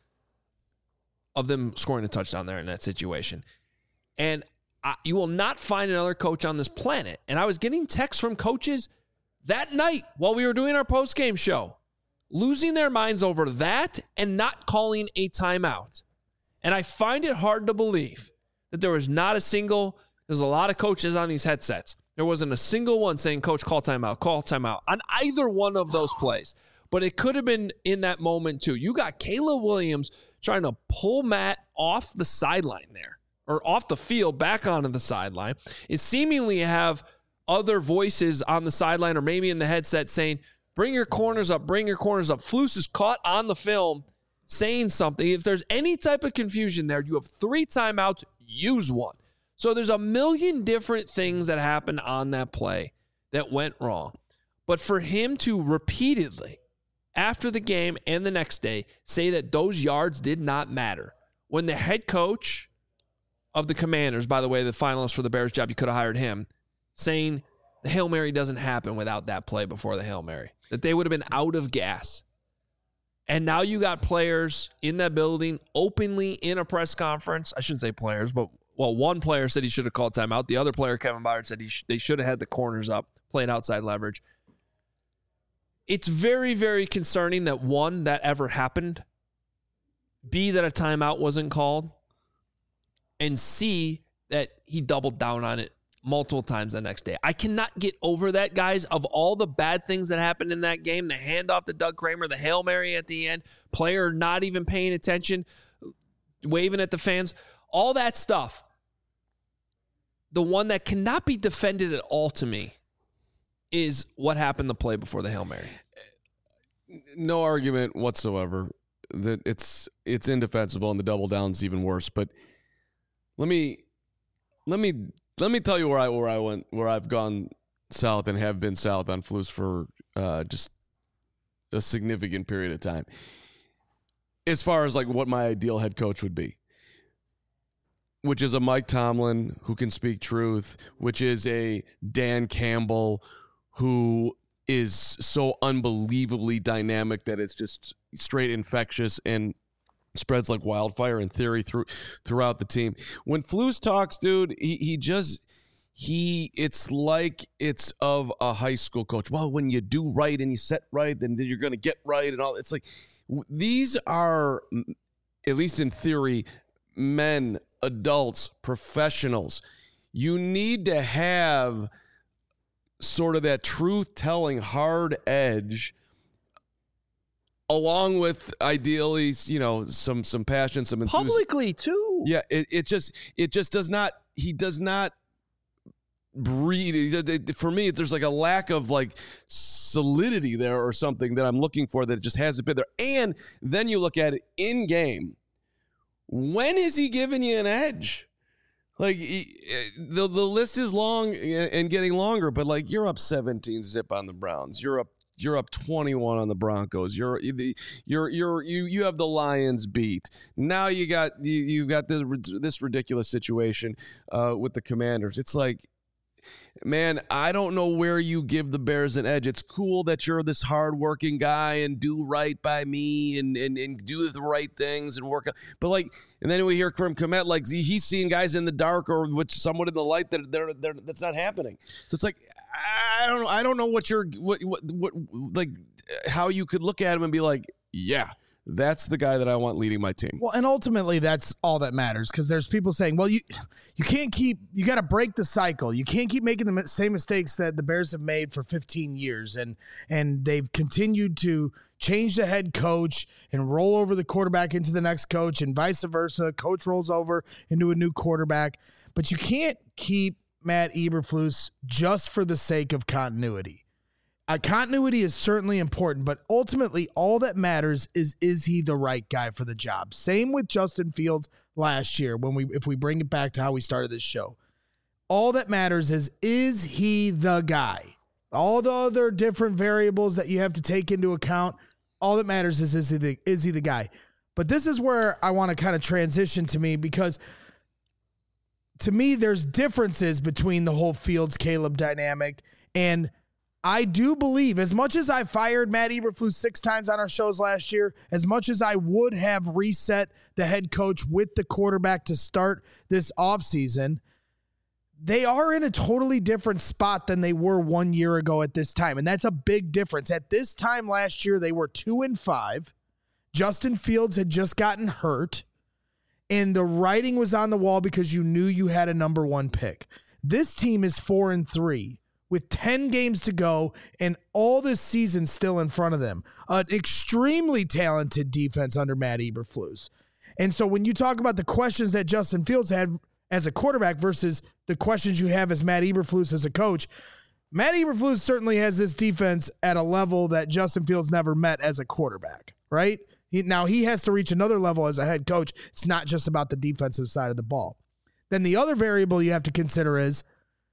of them scoring a touchdown there in that situation. And I, you will not find another coach on this planet. And I was getting texts from coaches that night while we were doing our post-game show, losing their minds over that and not calling a timeout. And I find it hard to believe that there was not a single, there's a lot of coaches on these headsets. There wasn't a single one saying, Coach, call timeout, call timeout on either one of those plays. But it could have been in that moment too. You got Caleb Williams trying to pull Matt off the sideline there, or off the field back onto the sideline, and seemingly have other voices on the sideline or maybe in the headset saying, bring your corners up, bring your corners up. Flus is caught on the film saying something. If there's any type of confusion there, you have three timeouts, use one. So there's a million different things that happened on that play that went wrong. But for him to repeatedly, after the game and the next day, say that those yards did not matter, when the head coach of the Commanders, by the way, the finalist for the Bears job, you could have hired him, saying the Hail Mary doesn't happen without that play before the Hail Mary, that they would have been out of gas. And now you got players in that building openly in a press conference. I shouldn't say players, but, well, one player said he should have called timeout. The other player, Kevin Byard, said he sh- they should have had the corners up, played outside leverage. It's very, very concerning that, one, that ever happened, B, that a timeout wasn't called, and C, that he doubled down on it multiple times the next day. I cannot get over that, guys. Of all the bad things that happened in that game, the handoff to Doug Kramer, the Hail Mary at the end, player not even paying attention, waving at the fans, all that stuff. The one that cannot be defended at all to me is what happened the play before the Hail Mary. No argument whatsoever that it's it's indefensible, and the double down's even worse. But let me let me let me tell you where I where I went where I've gone south and have been south on Flus for uh, just a significant period of time. As far as like what my ideal head coach would be, which is a Mike Tomlin who can speak truth, which is a Dan Campbell who is so unbelievably dynamic that it's just straight infectious and spreads like wildfire in theory through throughout the team. When Flus talks, dude, he he just he it's like it's of a high school coach. Well, when you do right and you set right, then you're going to get right and all. It's like these are, at least in theory, men, adults, professionals. You need to have sort of that truth-telling hard edge, along with ideally, you know, some some passion, some enthusiasm. Publicly too. Yeah, it, it just it just does not. He does not breed. For me, there's like a lack of like solidity there or something that I'm looking for that just hasn't been there. And then you look at it in game. When is he giving you an edge? Like he, the the list is long and getting longer, but like you're up seventeen zip on the Browns. You're up you're up twenty-one on the Broncos. You're you're you're you you have the Lions beat. Now you got you you got this this ridiculous situation uh, with the Commanders. It's like, man, I don't know where you give the Bears an edge. It's cool that you're this hardworking guy and do right by me and, and, and do the right things and work out. But like, and then we hear from Kmet, like he's seeing guys in the dark or with someone in the light that they're, they're that's not happening. So it's like, I don't know. I don't know what you're, what, what, what, like how you could look at him and be like, yeah, that's the guy that I want leading my team. Well, and ultimately that's all that matters, because there's people saying, well, you you can't keep, you got to break the cycle. You can't keep making the same mistakes that the Bears have made for fifteen years. And, and they've continued to change the head coach and roll over the quarterback into the next coach and vice versa. Coach rolls over into a new quarterback. But you can't keep Matt Eberflus just for the sake of continuity. Uh, continuity is certainly important, but ultimately all that matters is, is he the right guy for the job? Same with Justin Fields last year when we, if we bring it back to how we started this show. All that matters is, is he the guy? All the other different variables that you have to take into account, all that matters is, is he the, is he the guy? But this is where I want to kind of transition to me, because to me, there's differences between the whole Fields-Caleb dynamic. And I do believe, as much as I fired Matt Eberflus six times on our shows last year, as much as I would have reset the head coach with the quarterback to start this offseason, they are in a totally different spot than they were one year ago at this time. And that's a big difference. At this time last year, they were two and five. Justin Fields had just gotten hurt, and the writing was on the wall because you knew you had a number one pick. This team is four and three. With ten games to go and all this season still in front of them. An extremely talented defense under Matt Eberflus. And so when you talk about the questions that Justin Fields had as a quarterback versus the questions you have as Matt Eberflus as a coach, Matt Eberflus certainly has this defense at a level that Justin Fields never met as a quarterback, right? He, now he has to reach another level as a head coach. It's not just about the defensive side of the ball. Then the other variable you have to consider is,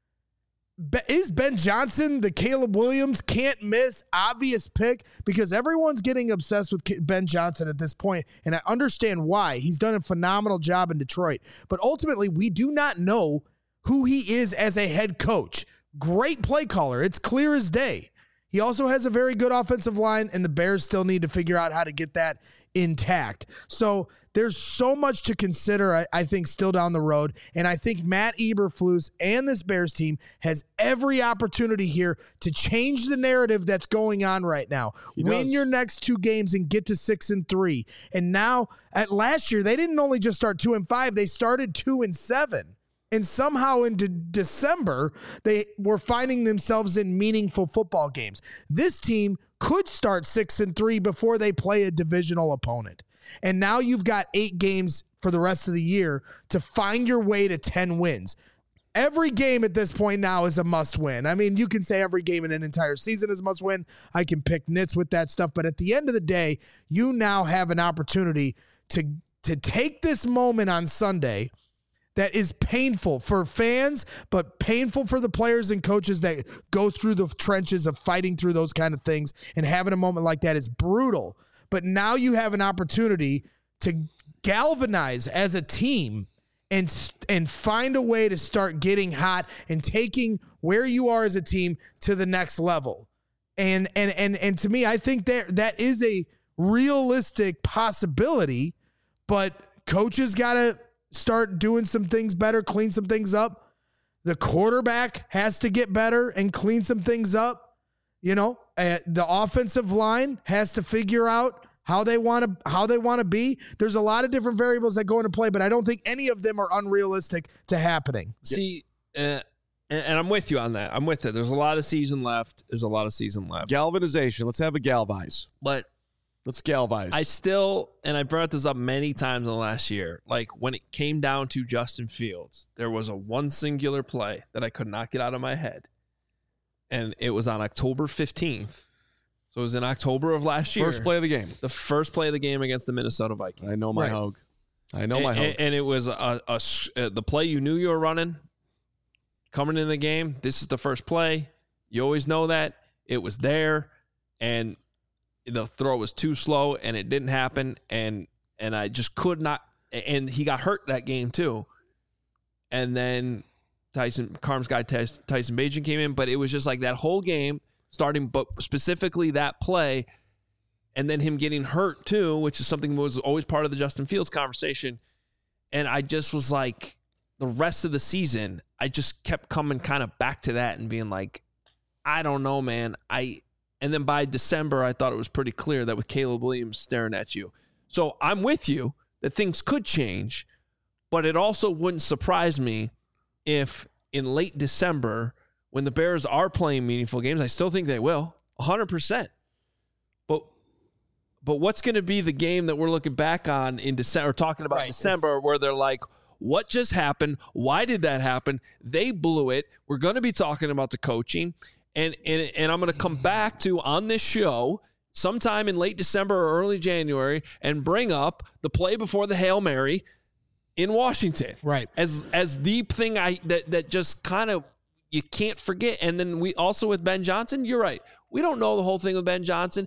is Ben Johnson the Caleb Williams can't miss obvious pick? Because everyone's getting obsessed with Ben Johnson at this point, and I understand why. He's done a phenomenal job in Detroit. But ultimately, we do not know who he is as a head coach. Great play caller. It's clear as day. He also has a very good offensive line, and the Bears still need to figure out how to get that intact. So there's so much to consider, I, I think, still down the road. And I think Matt Eberflus and this Bears team has every opportunity here to change the narrative that's going on right now. He Win does. your next two games and get to six and three. And now, at last year, they didn't only just start two and five, they started two and seven. And somehow into December, they were finding themselves in meaningful football games. This team could start six and three before they play a divisional opponent. And now you've got eight games for the rest of the year to find your way to ten wins. Every game at this point now is a must win. I mean, you can say every game in an entire season is a must win. I can pick nits with that stuff. But at the end of the day, you now have an opportunity to, to take this moment on Sunday that is painful for fans, but painful for the players and coaches that go through the trenches of fighting through those kind of things, and having a moment like that is brutal. But now you have an opportunity to galvanize as a team and and find a way to start getting hot and taking where you are as a team to the next level. And and and and to me, I think that that is a realistic possibility, but coaches got to start doing some things better, clean some things up. The quarterback has to get better and clean some things up. You know, uh, the offensive line has to figure out how they want to how they want to be. There's a lot of different variables that go into play, but I don't think any of them are unrealistic to happening. See, uh, and, and I'm with you on that. I'm with it. There's a lot of season left. There's a lot of season left. Galvanization. Let's have a galvanize. But let's galvanize. I still, and I brought this up many times in the last year, like when it came down to Justin Fields, there was a one singular play that I could not get out of my head. And it was on October fifteenth. So it was in October of last year. First play of the game. The first play of the game against the Minnesota Vikings. I know my Right. hog. I know and, my hog. and, and it was a, a, a the play you knew you were running coming in the game. This is the first play. You always know that. It was there, and the throw was too slow, and it didn't happen. And and I just could not. And he got hurt that game too. And then Tyson Carm's guy Tyson Bagent came in, but it was just like that whole game. Starting, but specifically that play, and then him getting hurt too, which is something that was always part of the Justin Fields conversation. And I just was like, the rest of the season, I just kept coming kind of back to that and being like, I don't know, man. I and then by December, I thought it was pretty clear that with Caleb Williams staring at you. So I'm with you that things could change, but it also wouldn't surprise me if in late December, when the Bears are playing meaningful games, I still think they will, one hundred percent. But but what's going to be the game that we're looking back on in December, talking about Right. December, where they're like, what just happened? Why did that happen? They blew it. We're going to be talking about the coaching. And, and, and I'm going to come back to, on this show, sometime in late December or early January, and bring up the play before the Hail Mary in Washington. Right. As as the thing I that that just kind of you can't forget. And then we also with Ben Johnson, you're right. We don't know the whole thing with Ben Johnson.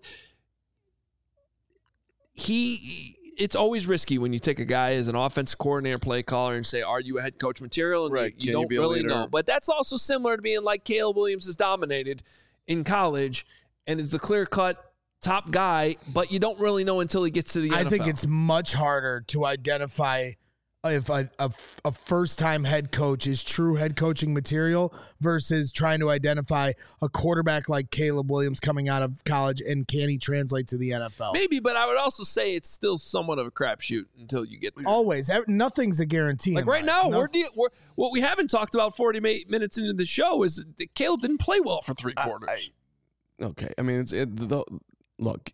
He, it's always risky when you take a guy as an offensive coordinator, play caller, and say, are you a head coach material? And Right. you, you Can you don't be a really leader? know. But that's also similar to being like Caleb Williams is dominated in college and is the clear-cut top guy, but you don't really know until he gets to the N F L. I think it's much harder to identify if a, a, a first-time head coach is true head coaching material versus trying to identify a quarterback like Caleb Williams coming out of college and can he translate to the N F L? Maybe, but I would also say it's still somewhat of a crapshoot until you get there. Always. Ev- Nothing's a guarantee. Like in right life. now, No- we're, de- we're what we haven't talked about forty minutes into the show is that Caleb didn't play well for three quarters. I- okay. I mean, it's it, the, look,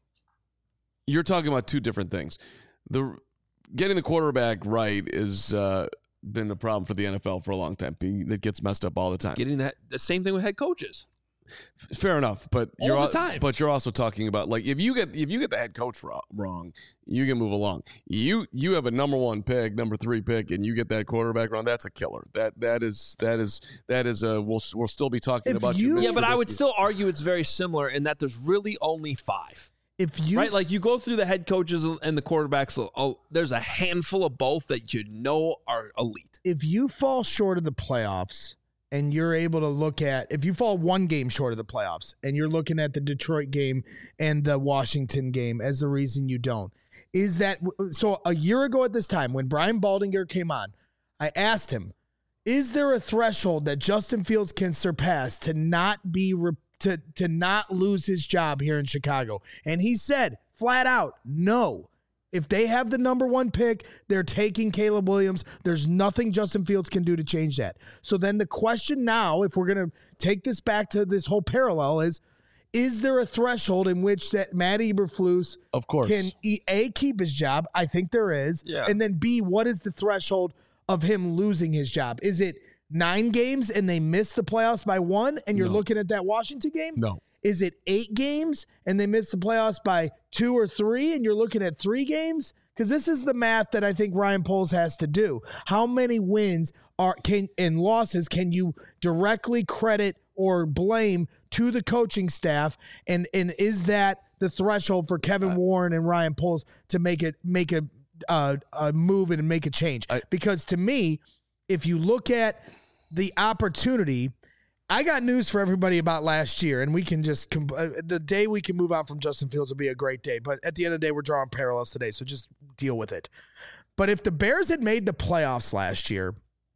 you're talking about two different things. The getting the quarterback right is uh, been a problem for the N F L for a long time. It gets messed up all the time. Getting that the same thing with head coaches. Fair enough, but All you're the al- time. But you're also talking about like if you get if you get the head coach wrong, wrong, you can move along. You you have a number one pick, number three pick, and you get that quarterback wrong. That's a killer. That that is that is that is a we'll we'll still be talking If about you- your Yeah, but I would Trubisky. still argue it's very similar in that there's really only five. If you Right? Like you go through the head coaches and the quarterbacks, oh, there's a handful of both that you know are elite. if you fall short of the playoffs and you're able to look at if you fall one game short of the playoffs and you're looking at the Detroit game and the Washington game as the reason you don't, is that so a year ago at this time when Brian Baldinger came on, I asked him, is there a threshold that Justin Fields can surpass to not be re- to to not lose his job here in Chicago? And he said flat out, no. If they have the number one pick, they're taking Caleb Williams. There's nothing Justin Fields can do to change that. So then the question now, if we're going to take this back to this whole parallel, is, is there a threshold in which that Matt Eberflus Of course. can E- A, keep his job? I think there is. Yeah. And then B, what is the threshold of him losing his job? Is it nine games and they miss the playoffs by one and you're No. looking at that Washington game? No. Is it eight games and they miss the playoffs by two or three and you're looking at three games? Because this is the math that I think Ryan Poles has to do. How many wins are can and losses can you directly credit or blame to the coaching staff? And and is that the threshold for Kevin Warren and Ryan Poles to make it make a uh, uh, move and make a change. I, because to me, if you look at the opportunity, I got news for everybody about last year, and we can just com- uh, the day we can move on from Justin Fields will be a great day. But at the end of the day, we're drawing parallels today, so just deal with it. But if the Bears had made the playoffs last year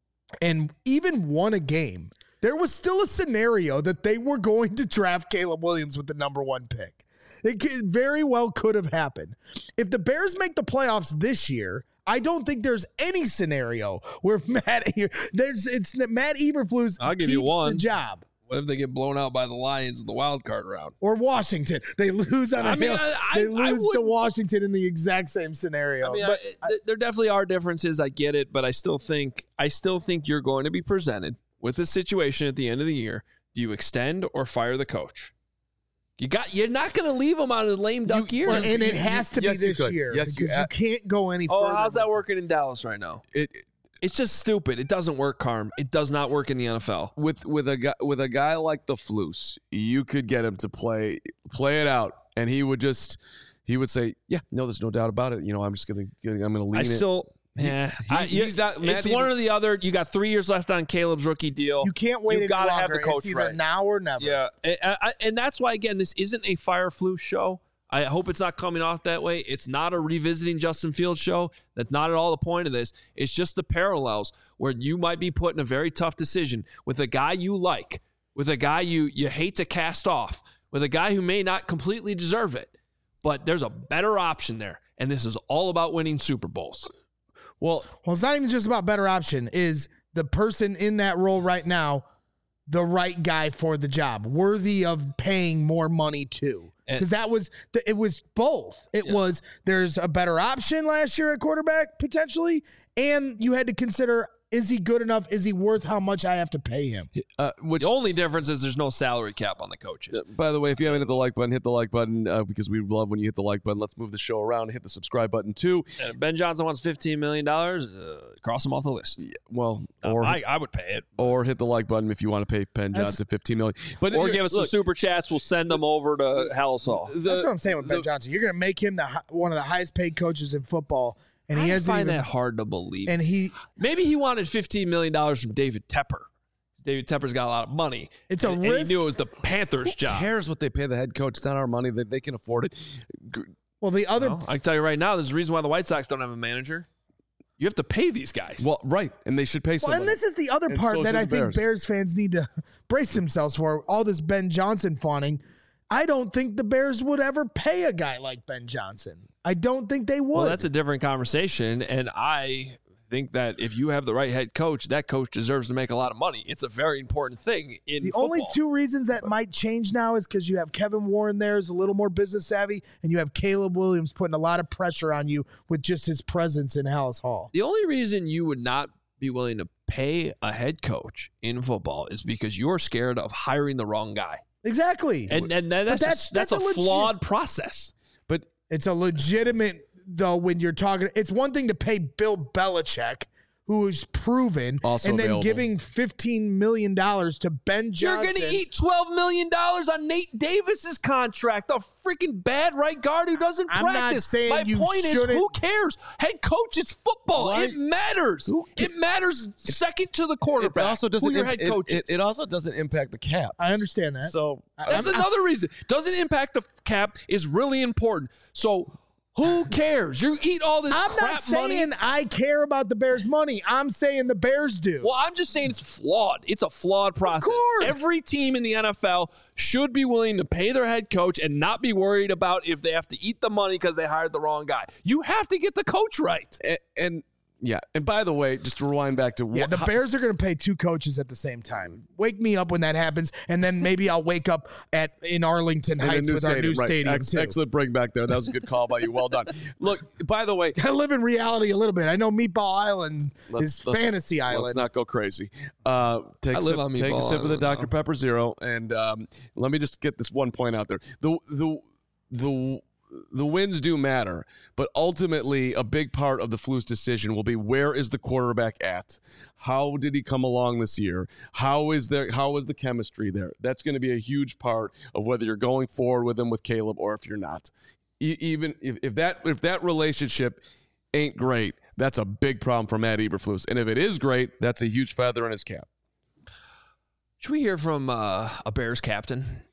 and even won a game, there was still a scenario that they were going to draft Caleb Williams with the number one pick. It could, very well could have happened. If the Bears make the playoffs this year, I don't think there's any scenario where Matt there's it's Matt Eberflus I'll give keeps you one. the job. What if they get blown out by the Lions in the wild card round? Or Washington. They lose on a I mean, hill. I- I- They I lose to wouldn't- Washington in the exact same scenario. I mean, but I, th- there definitely are differences. I get it, but I still think I still think you're going to be presented with a situation at the end of the year. Do you extend or fire the coach? You got. You're not going to leave him on a lame duck You- year. well, and it you- has to yes, be you this could. year Yes, you- because you, can't go any oh, further. how's that working in Dallas right now? it, It's just stupid. It doesn't work, Carm. It does not work in the N F L. with with a guy with a guy like the Flus, you could get him to play play it out, and he would just he would say, "Yeah, no, there's no doubt about it. You know, I'm just gonna I'm gonna lean I it." still. Yeah, He- I- he's not- It's Matt one Eber- or the other. You got three years left on Caleb's rookie deal. You can't wait You any gotta have longer. the coach it's either right. now or never. Yeah, and, I, and that's why again, this isn't a fire flu show. I hope it's not coming off that way. It's not a revisiting Justin Fields show. That's not at all the point of this. It's just the parallels where you might be put in a very tough decision with a guy you like, with a guy you you hate to cast off, with a guy who may not completely deserve it, but there's a better option there, and this is all about winning Super Bowls. Well, Well, it's not even just about better option. Is the person in that role right now the right guy for the job, worthy of paying more money to? And- Because that was the, it was both. It Yeah. was there's a better option last year at quarterback potentially, and you had to consider, is he good enough? Is he worth how much I have to pay him? uh, which The only difference is there's no salary cap on the coaches. Uh, by the way, if you haven't hit the like button, hit the like button uh, because we love when you hit the like button. Let's move the show around and hit the subscribe button too. And if Ben Johnson wants fifteen million dollars, uh, cross him off the list. Yeah, well, Uh, or I, I would pay it. or hit the like button if you want to pay Penn That's- Johnson fifteen million. But Or here- give us look, some super chats. We'll send them over to Hallis Hall. the- That's what I'm saying with Ben the- Johnson. You're going to make him the hi- one of the highest paid coaches in football, and he I hasn't find even. that hard to believe. And he, Maybe he wanted fifteen million dollars from David Tepper. David Tepper's got a lot of money. It's a and, and risk. he knew it was the Panthers' Who job. cares what they pay the head coach? It's not our money. That they can afford it. G- well, the other Well, I can tell you right now, there's a reason why the White Sox don't have a manager. You have to pay these guys. Well, right, and they should pay Well, somebody. and this is the other And part so that should I the think Bears. Bears. fans need to brace themselves for. All this Ben Johnson fawning. I don't think the Bears would ever pay a guy like Ben Johnson. I don't think they would. Well, that's a different conversation. And I think that if you have the right head coach, that coach deserves to make a lot of money. It's a very important thing in the football. only two reasons that might change now is because you have Kevin Warren there, is a little more business savvy, and you have Caleb Williams putting a lot of pressure on you with just his presence in Hallis Hall. The only reason you would not be willing to pay a head coach in football is because you're scared of hiring the wrong guy. Exactly. And and that's that's- just, that's, that's a, a legit- flawed process. but It's a legitimate, though, when you're talking. It's one thing to pay Bill Belichick, who is proven, Also and then available. giving fifteen million dollars to Ben You're Johnson. going to eat twelve million dollars on Nate Davis's contract, a freaking bad right guard who doesn't I'm not practice. saying My you point is, shouldn't- who cares? Head coach is football. Why- It matters. It matters second to the it quarterback. also doesn't. who your im- head it, coach is. it, it also doesn't impact the cap. I understand that. So That's I'm- another reason. Doesn't impact the cap is really important. So who cares? You eat all this I'm crap not saying money. I care about the Bears' money. I'm saying the Bears do. Well, I'm just saying it's flawed. It's a flawed process. course. Every team in the N F L should be willing to pay their head coach and not be worried about if they have to eat the money because they hired the wrong guy. You have to get the coach right. and, and yeah, and by the way, just to rewind back to Yeah, wh- the how- Bears are going to pay two coaches at the same time. Wake me up when that happens, and then maybe I'll wake up at in Arlington in the Heights new with our new right. stadium Ex- too. Excellent bring back there. That was a good call by you. Well done. Look, by the way, I live in reality a little bit. I know Meatball Island Let's- is let's- fantasy let's island. not go crazy. Uh, take I a live sip, on take a Meatball sip of the Island Doctor now. Pepper Zero, and um, let me just get this one point out there. The the the the wins do matter, but ultimately a big part of the Flus decision will be where is the quarterback at? How did he come along this year? How is there how is the chemistry there? That's going to be a huge part of whether you're going forward with him with Caleb or if you're not. E- even if, if that if that relationship ain't great, that's a big problem for Matt Eberflus. And if it is great, that's a huge feather in his cap. Should we hear from uh, a Bears captain?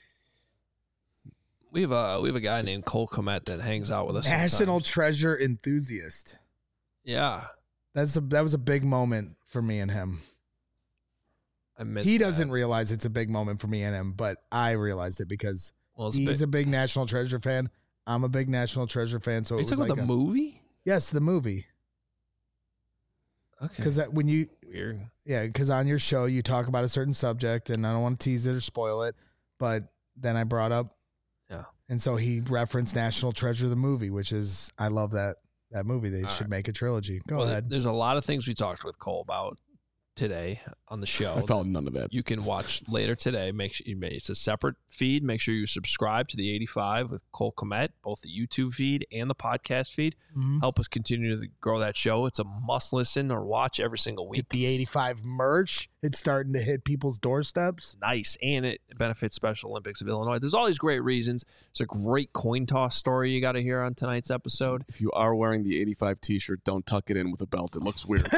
We have a we have a guy named Cole Kmet that hangs out with us. National sometimes. treasure enthusiast. Yeah, That's a that was a big moment for me and him. I missed He that. doesn't realize it's a big moment for me and him, but I realized it because Well, it's he's a a big National Treasure fan. I'm a big National Treasure fan. So Are it you was talking like about the a- movie? yes, the movie. Okay. Because when you Weird. yeah, because on your show you talk about a certain subject, and I don't want to tease it or spoil it, but then I brought up Yeah. and so he referenced National Treasure the movie, which is I love that that movie. They All should right. make a trilogy. Go Well, ahead. There's a lot of things we talked with Cole about today on the show. I felt none of that. You can watch later today. Make sure you it's a separate feed. Make sure you subscribe to the eighty-five with Cole Kmet, both the YouTube feed and the podcast feed. Mhm. Help us continue to grow that show. It's a must listen or watch every single week. Get the eighty-five merch. It's starting to hit people's doorsteps. Nice, and it benefits Special Olympics of Illinois. There's all these great reasons. It's a great coin toss story you got to hear on tonight's episode. If you are wearing the eighty-five t-shirt, don't tuck it in with a belt. It looks weird.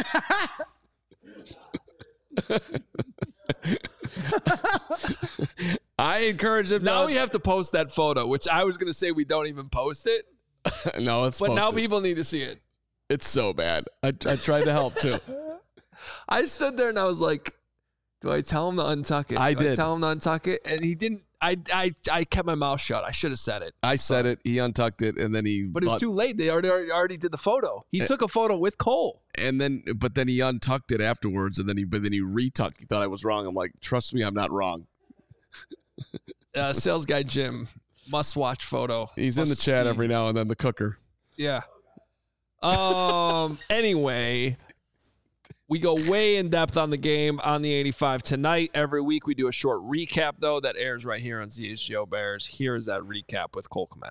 I encourage him. Now to- we have to post that photo, which I was going to say we don't even post it, no, it's but now posted. people need to see it. It's so bad. I, I tried to help too. I stood there and I was like, do I tell him to untuck it? I Do did. tell him to untuck it, and he didn't. I, I, I kept my mouth shut. I should have said it. I said it. He untucked it, and then he. But it was but- too late. They already already, already did the photo. He Eh. took a photo with Cole. And then, but then he untucked it afterwards, and then he, but then he retucked. He thought I was wrong. I'm like, trust me, I'm not wrong. Uh, sales guy Jim, must watch photo. He's in the Must chat see. every now and then. The cooker. Yeah. Um. Anyway, we go way in depth on the game on the eighty-five tonight. Every week we do a short recap though that airs right here on C H G O Bears. Here is that recap with Cole Kmet.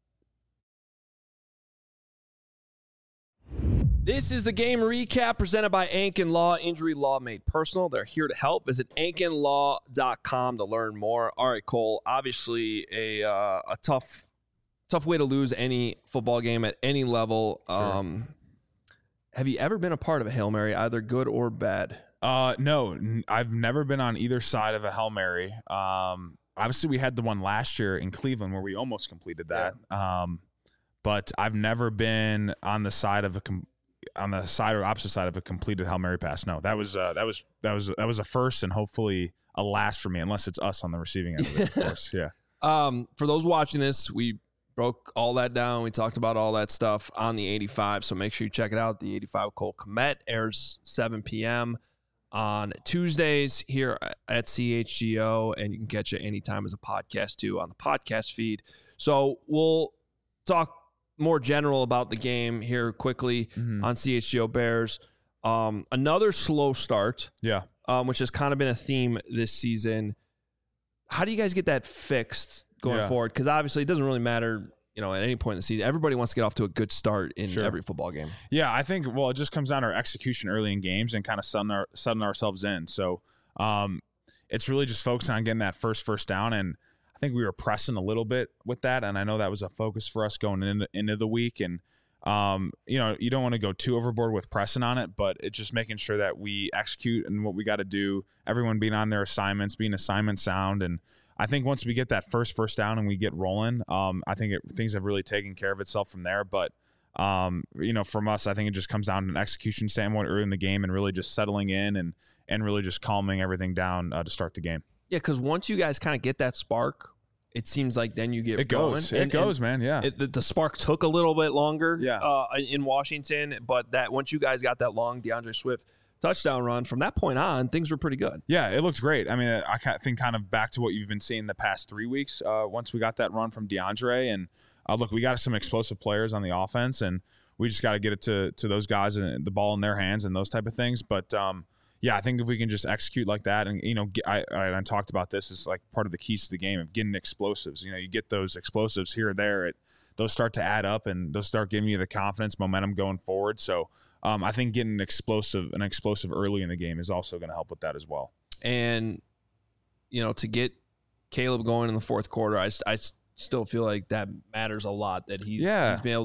This is the game recap presented by Ankin Law, Injury Law Made Personal. They're here to help. Visit ankin law dot com to learn more. All right, Cole, obviously a uh, a tough tough way to lose any football game at any level. Sure. Um, have you ever been a part of a Hail Mary, either good or bad? Uh, no, n- I've never been on either side of a Hail Mary. Um, obviously we had the one last year in Cleveland where we almost completed that. Um, but I've never been on the side of a com- on the side or opposite side of a completed Hail Mary pass. No, that was uh, that was that was that was a first and hopefully a last for me, unless it's us on the receiving end of it, of course. Yeah. Um, for those watching this, we broke all that down. We talked about all that stuff on the eighty-five, so make sure you check it out. The eighty-five Cole Kmet airs seven p.m. on Tuesdays here at C H G O, and you can catch it anytime as a podcast too on the podcast feed. So we'll talk more general about the game here quickly Mhm. on C H G O Bears. Um, another slow start, Yeah. um, which has kind of been a theme this season. How do you guys get that fixed going Yeah. forward? Because obviously it doesn't really matter, you know, at any point in the season. Everybody wants to get off to a good start in Sure. every football game. Yeah, I think, well, it just comes down to our execution early in games and kind of setting, our, setting ourselves in. So um, it's really just focusing on getting that first first down. And I think we were pressing a little bit with that. And I know that was a focus for us going into, into the week. And, um, you know, you don't want to go too overboard with pressing on it, but it's just making sure that we execute and what we got to do, everyone being on their assignments, being assignment sound. And I think once we get that first first down and we get rolling, um, I think it, things have really taken care of itself from there. But Um, you know, from us, I think it just comes down to an execution standpoint early in the game and really just settling in and and really just calming everything down uh, to start the game. Yeah, because once you guys kind of get that spark, it seems like then you get It goes, going. it And- goes, and man. Yeah, It, the, the spark took a little bit longer Yeah. uh, in Washington, but that once you guys got that long DeAndre Swift touchdown run, from that point on, things were pretty good. yeah, it looked great. I mean, I kind of think kind of back to what you've been seeing the past three weeks. Uh, once we got that run from DeAndre, and uh, look, we got some explosive players on the offense, and we just got to get it to to those guys and the ball in their hands and those type of things. But um, yeah, I think if we can just execute like that, and you know, get, I, I I talked about this as like part of the keys to the game of getting explosives. You know, you get those explosives here or there, it those start to add up, and those start giving you the confidence, momentum going forward. So um, I think getting explosive an explosive early in the game is also going to help with that as well. And, you know, to get Caleb going in the fourth quarter, I, I still feel like that matters a lot, that he's, Yeah. he's been able to,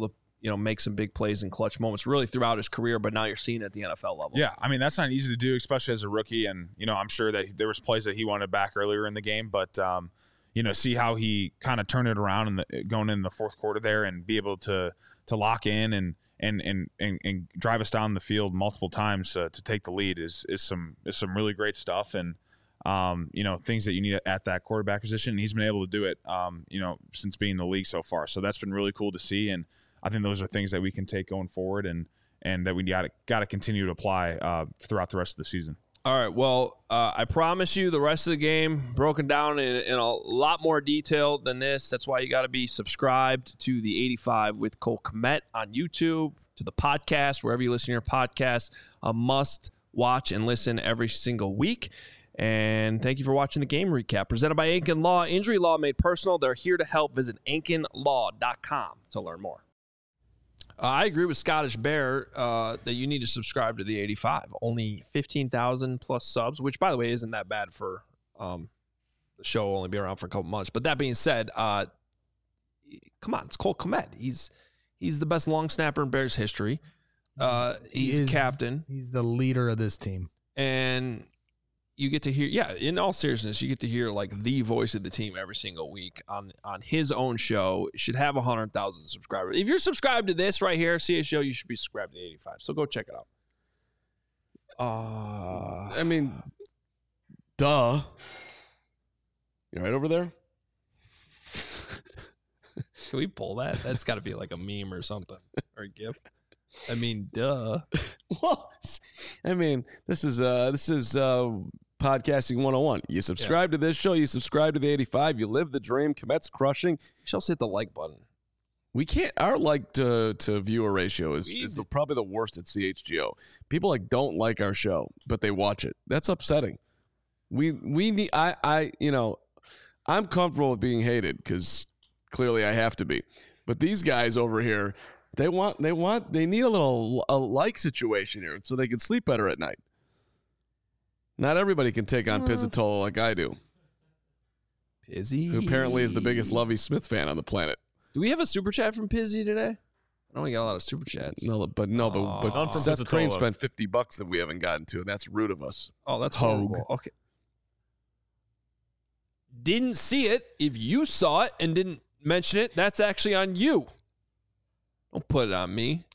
you know, make some big plays in clutch moments really throughout his career, but now you're seeing it at the N F L level. Yeah, I mean, that's not easy to do, especially as a rookie. And, you know, I'm sure that there was plays that he wanted back earlier in the game, but, um, you know, see how he kind of turned it around in the, going in the fourth quarter there and be able to to lock in and and and and, and drive us down the field multiple times uh, to take the lead is is some is some really great stuff. And, um, you know, things that you need at that quarterback position. And he's been able to do it, um, you know, since being in the league so far. So that's been really cool to see. And I think those are things that we can take going forward and and that we got to got to continue to apply uh, throughout the rest of the season. All right. Well, uh, I promise you the rest of the game broken down in, in a lot more detail than this. That's why you got to be subscribed to the eighty-five with Cole Kmet on YouTube, to the podcast, wherever you listen to your podcast. A must watch and listen every single week. And thank you for watching the game recap presented by Ankin Law. Injury law made personal. They're here to help. Visit ankin law dot com to learn more. Uh, I agree with Scottish Bear uh, that you need to subscribe to the eighty-five. Only fifteen thousand plus subs, which, by the way, isn't that bad for um, the show will only be around for a couple months. But that being said, uh, come on, it's Cole Kmet. He's he's the best long snapper in Bears history. Uh, he's He is- captain. He's the leader of this team. And you get to hear, yeah, in all seriousness, you get to hear like the voice of the team every single week on on his own show. It should have one hundred thousand subscribers. If you're subscribed to this right here, C A Show, you should be subscribed to the eighty-five. So go check it out. Uh, I mean, duh. You right over there? Can we pull that? That's got to be like a meme or something, or a GIF. I mean, duh. Well, I mean, this is uh, this is uh, podcasting one oh one. You subscribe to this show, you subscribe to the eighty-five, you live the dream. Kmet's crushing. You should also hit the like button. We can't. Our like to to viewer ratio is is the, probably the worst at C H G O. People like don't like our show, but they watch it. That's upsetting. We we need. I I you know, I'm comfortable with being hated because clearly I have to be. But these guys over here, they want they want they need a little a like situation here so they can sleep better at night. Not everybody can take on Pizzatola like I do, Pizzy, who apparently is the biggest Lovie Smith fan on the planet. Do we have a super chat from Pizzy today? I know we got a lot of super chats. No, but no, but, Aw. but None from Seth Pizzatola. Crane spent fifty bucks that we haven't gotten to, and that's rude of us. Oh, that's Hogue. horrible. Okay. Didn't see it. If you saw it and didn't mention it, that's actually on you. Don't put it on me.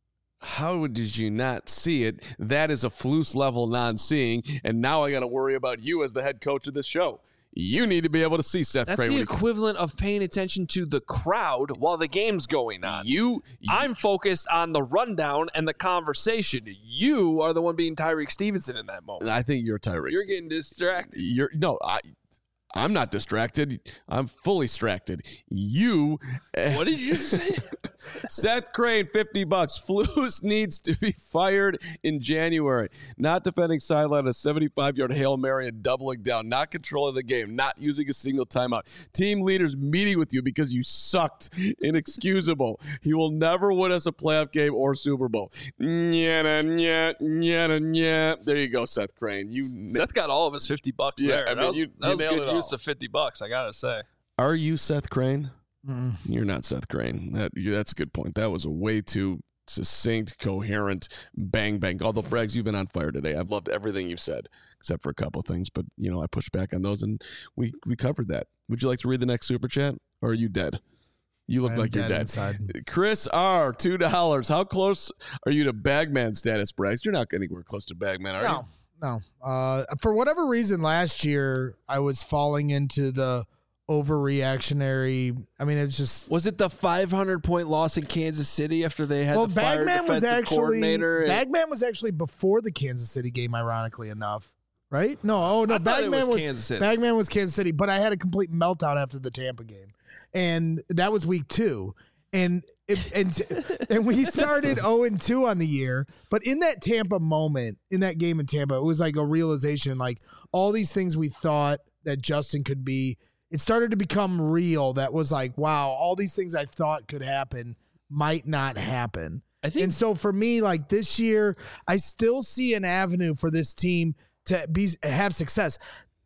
How did you not see it? That is a Flus level non-seeing, and now I got to worry about you as the head coach of this show. You need to be able to see Seth That's Crane. the when he- equivalent of paying attention to the crowd while the game's going on. You, you I'm focused on the rundown and the conversation. You are the one being Tyreek Stevenson in that moment. I think you're Tyreek. You're getting distracted. You're no, I. I'm not distracted. I'm fully distracted. You. What did you say? Seth Crane, fifty bucks. Flus needs to be fired in January. Not defending sideline, a seventy-five-yard Hail Mary and doubling down. Not controlling the game. Not using a single timeout. Team leaders meeting with you because you sucked. Inexcusable. He will never win us a playoff game or Super Bowl. Nyah, nyah, nyah, nyah. There you go, Seth Crane. You. Seth got all of his fifty bucks Yeah, there. I mean, that was, you- that you was nailed good it use all. of fifty bucks, I gotta say. Are you Seth Crane? Mm. You're not Seth Crane. That you, that's a good point. That was a way too succinct, coherent, bang bang. Although Braggs, you've been on fire today. I've loved everything you've said, except for a couple of things. But you know, I pushed back on those, and we we covered that. Would you like to read the next super chat, or are you dead? You look I'm like you're dead dead. inside. Chris R, two dollars. How close are you to Bagman status, Braggs? You're not anywhere close to Bagman, are you? No, no. Uh, for whatever reason, last year I was falling into the overreactionary. I mean, it's just Was it the five hundred point loss in Kansas City after they had well, the fired Bagman was defensive actually coordinator? and- Bagman was actually before the Kansas City game, ironically enough. Right? No, oh no, I thought it Bagman was was Kansas City. Bagman was Kansas City, but I had a complete meltdown after the Tampa game, and that was week two. And it, and and we started oh and two on the year, but in that Tampa moment, in that game in Tampa, it was like a realization, like all these things we thought that Justin could be, it started to become real. That was like, wow, all these things I thought could happen might not happen. I think And so for me, like this year, I still see an avenue for this team to be have success.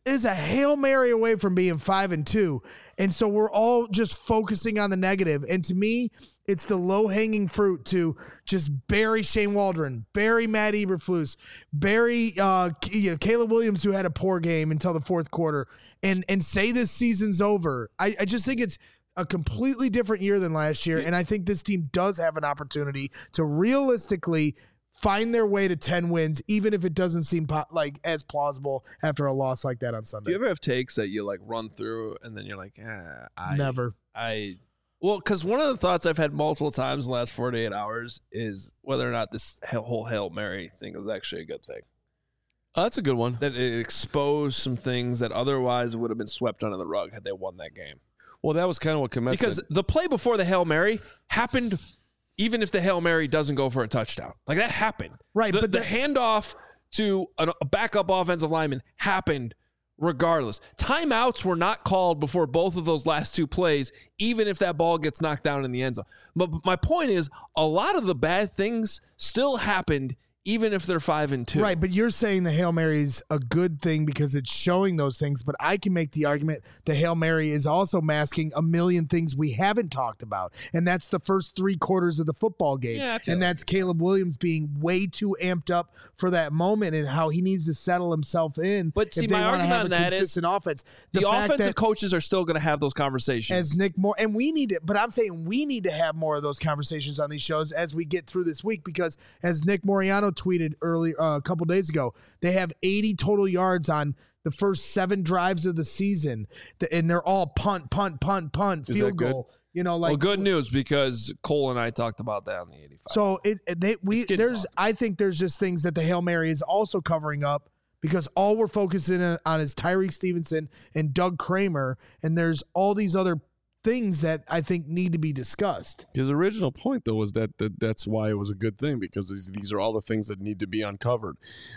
is a Hail Mary away from being five and two. And so we're all just focusing on the negative. And to me, it's the low-hanging fruit to just bury Shane Waldron, bury Matt Eberflus, bury uh, you know, Caleb Williams, who had a poor game until the fourth quarter, and and say this season's over. I, I just think it's a completely different year than last year, and I think this team does have an opportunity to realistically find their way to ten wins, even if it doesn't seem po- like as plausible after a loss like that on Sunday. Do you ever have takes that you like run through and then you're like, eh, I Never. I well, because one of the thoughts I've had multiple times in the last forty-eight hours is whether or not this whole Hail Mary thing is actually a good thing. Oh, that's a good one. That it exposed some things that otherwise would have been swept under the rug had they won that game. Well, that was kind of what Komet Because said. the play before the Hail Mary happened even if the Hail Mary doesn't go for a touchdown. Like, that happened. Right, The, but the the- handoff to an, a backup offensive lineman happened regardless. Timeouts were not called before both of those last two plays, even if that ball gets knocked down in the end zone. But my point is, a lot of the bad things still happened even if they're five and two. Right, but you're saying the Hail Mary is a good thing because it's showing those things, but I can make the argument the Hail Mary is also masking a million things we haven't talked about, and that's the first three quarters of the football game, Yeah, I feel and like- that's Caleb Williams being way too amped up for that moment and how he needs to settle himself in. But see, if they my want to argument have on a that is consistent offense. The, fact offensive that coaches are still going to have those conversations. as Nick Moore, and we need it, but I'm saying we need to have more of those conversations on these shows as we get through this week, because as Nick Moriano tweeted earlier uh, a couple days ago, they have eighty total yards on the first seven drives of the season, and they're all punt, punt, punt, punt, Is field that good? goal. You know, like well, good news, because Cole and I talked about that on the eighty-five. so it, it- they we It's getting there's talked. I think there's just things that the Hail Mary is also covering up, because all we're focusing on is Tyreek Stevenson and Doug Kramer, and there's all these other things that I think need to be discussed. His original point, though, was that, that that's why it was a good thing, because these, these are all the things that need to be uncovered.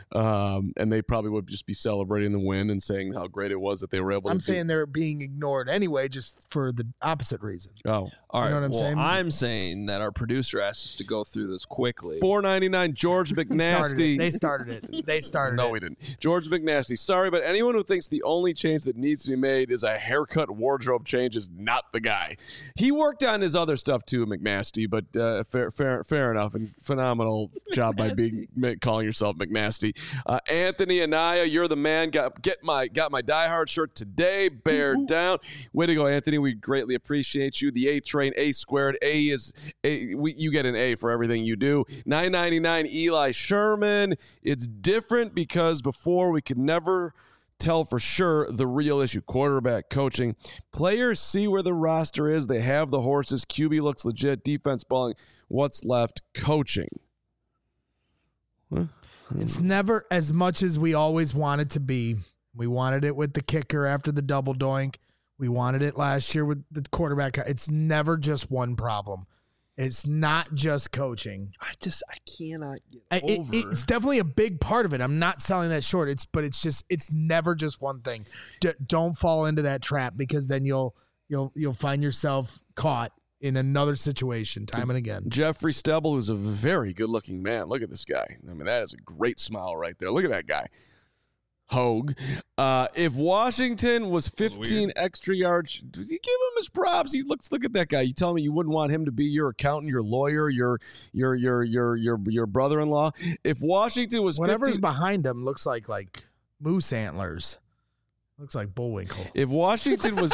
Um, and they probably would just be celebrating the win and saying how great it was that they were able I'm to saying they're being ignored anyway, just for the opposite reason. do. Oh. All right, know what I'm well, saying? I'm saying that our producer asked us to go through this quickly. four ninety-nine George Started it. McNasty. They started it. They started No, it. we didn't. George McNasty. Sorry, but anyone who thinks the only change that needs to be made is a haircut wardrobe change is not the guy. He worked on his other stuff too, McNasty, but uh, fair, fair, fair enough, and phenomenal job by being calling yourself McNasty. Uh, Anthony Anaya, you're the man. Got get my got my Die Hard shirt today. Bear down. Way to go, Anthony. We greatly appreciate you. The A Train, A squared. A is a. We, you get an A for everything you do. nine ninety-nine Eli Sherman. It's different because before we could never tell for sure the real issue. Quarterback coaching. Players see where the roster is. They have the horses. Q B looks legit. Defense balling. What's left? Coaching. Huh? It's never as much as we always wanted to be. We wanted it with the kicker after the double doink. We wanted it last year with the quarterback. It's never just one problem. It's not just coaching. I just I cannot get I- it- over. it's definitely a big part of it. I'm not selling that short. It's but it's just it's never just one thing. D- don't fall into that trap, because then you'll you'll you'll find yourself caught in another situation time and again. Jeffrey Stebble, who's a very good-looking man. Look at this guy. I mean, that is a great smile right there. Look at that guy. Hogue. Uh, if Washington was fifteen extra yards, you give him his props. He looks. Look at that guy. You tell me you wouldn't want him to be your accountant, your lawyer, your your your your your your brother-in-law. If Washington was Whatever's fifteen, behind him looks like like moose antlers. Looks like Bullwinkle. if Washington was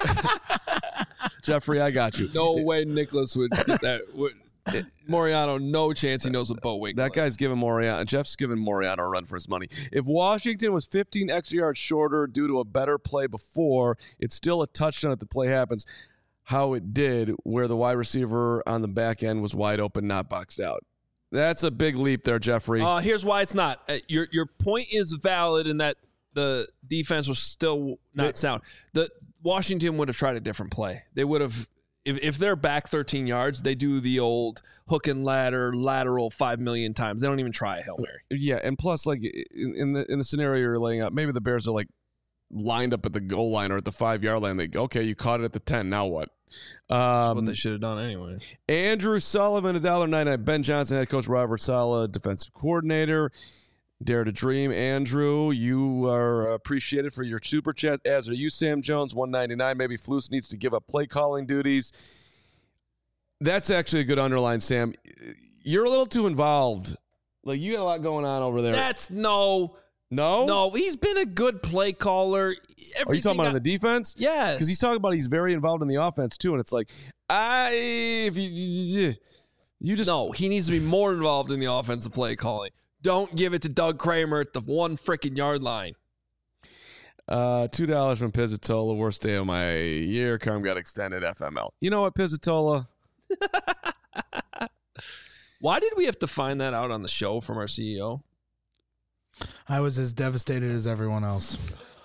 Jeffrey, I got you. no way Nicholas would get that. Would, Moriano, no chance he knows what boat wig. That guy's giving Moriano, Jeff's giving Moriano a run for his money. If Washington was fifteen extra yards shorter due to a better play before, it's still a touchdown if the play happens. How it did, where the wide receiver on the back end was wide open, not boxed out. That's a big leap there, Jeffrey. Uh, here's why it's not. Uh, your your point is valid in that the defense was still not Wait. sound. The Washington would have tried a different play. They would have. If, if they're back thirteen yards, they do the old hook and ladder, lateral five million times. They don't even try a Hail Mary. Yeah, and plus, like in, in the in the scenario you're laying out, maybe the Bears are like lined up at the goal line or at the five yard line. They go, okay, you caught it at the ten. Now what? Um, What they should have done anyway. Andrew Sullivan, one dollar ninety-nine. Ben Johnson, head coach. Robert Saleh, defensive coordinator. Dare to Dream. Andrew, you are appreciated for your super chat, as are you, Sam Jones, one ninety-nine. Maybe Flus needs to give up play calling duties. That's actually a good underline, Sam. You're a little too involved. Like, you got a lot going on over there. That's no. No? No, he's been a good play caller. Everything Are you talking about I, on the defense? Yes. Because he's talking about he's very involved in the offense, too. And it's like, I, if you, you just. No, he needs to be more involved in the offensive play calling. Don't give it to Doug Kramer at the one freaking yard line. Uh, two dollars from Pizzatola. Worst day of my year. Carm got extended F M L. You know what, Pizzatola? Why did we have to find that out on the show from our C E O? I was as devastated as everyone else.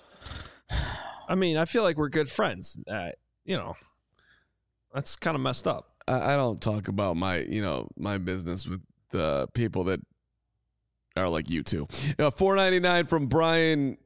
I mean, I feel like we're good friends. Uh, you know, that's kind of messed up. I, I don't talk about my, you know, my business with the people that are like you two. Uh, four ninety-nine from Brian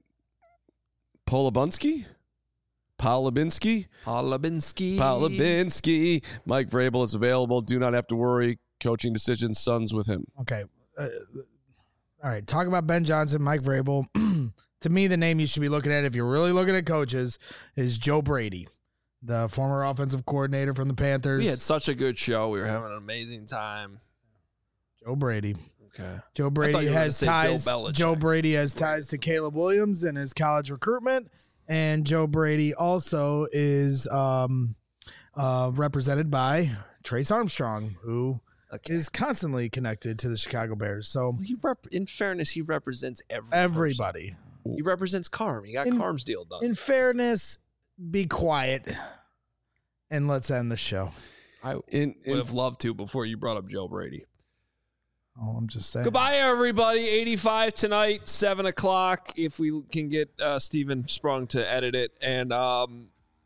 Polabunski? Polabinski? Polabinski. Polabinski. Mike Vrabel is available. Do not have to worry. Coaching decisions, Suns with him. Okay. Uh, all right. Talk about Ben Johnson, Mike Vrabel. To me, the name you should be looking at if you're really looking at coaches is Joe Brady, the former offensive coordinator from the Panthers. We had such a good show. We were having an amazing time. Joe Brady. Okay. Joe I Brady thought you were has gonna say ties. Bill Belichick. Joe Brady has ties to Caleb Williams in his college recruitment, and Joe Brady also is um, uh, represented by Trace Armstrong, who Okay. is constantly connected to the Chicago Bears. So He rep- in fairness, he represents every person. everybody. He represents Carm. He got In- Carm's deal done. In fairness, be quiet and let's end the show. I In, in would have loved to before you brought up Joe Brady. Oh, I'm just saying. Goodbye, everybody. eighty-five tonight, seven o'clock. If we can get uh, Steven Sprung to edit it. And um,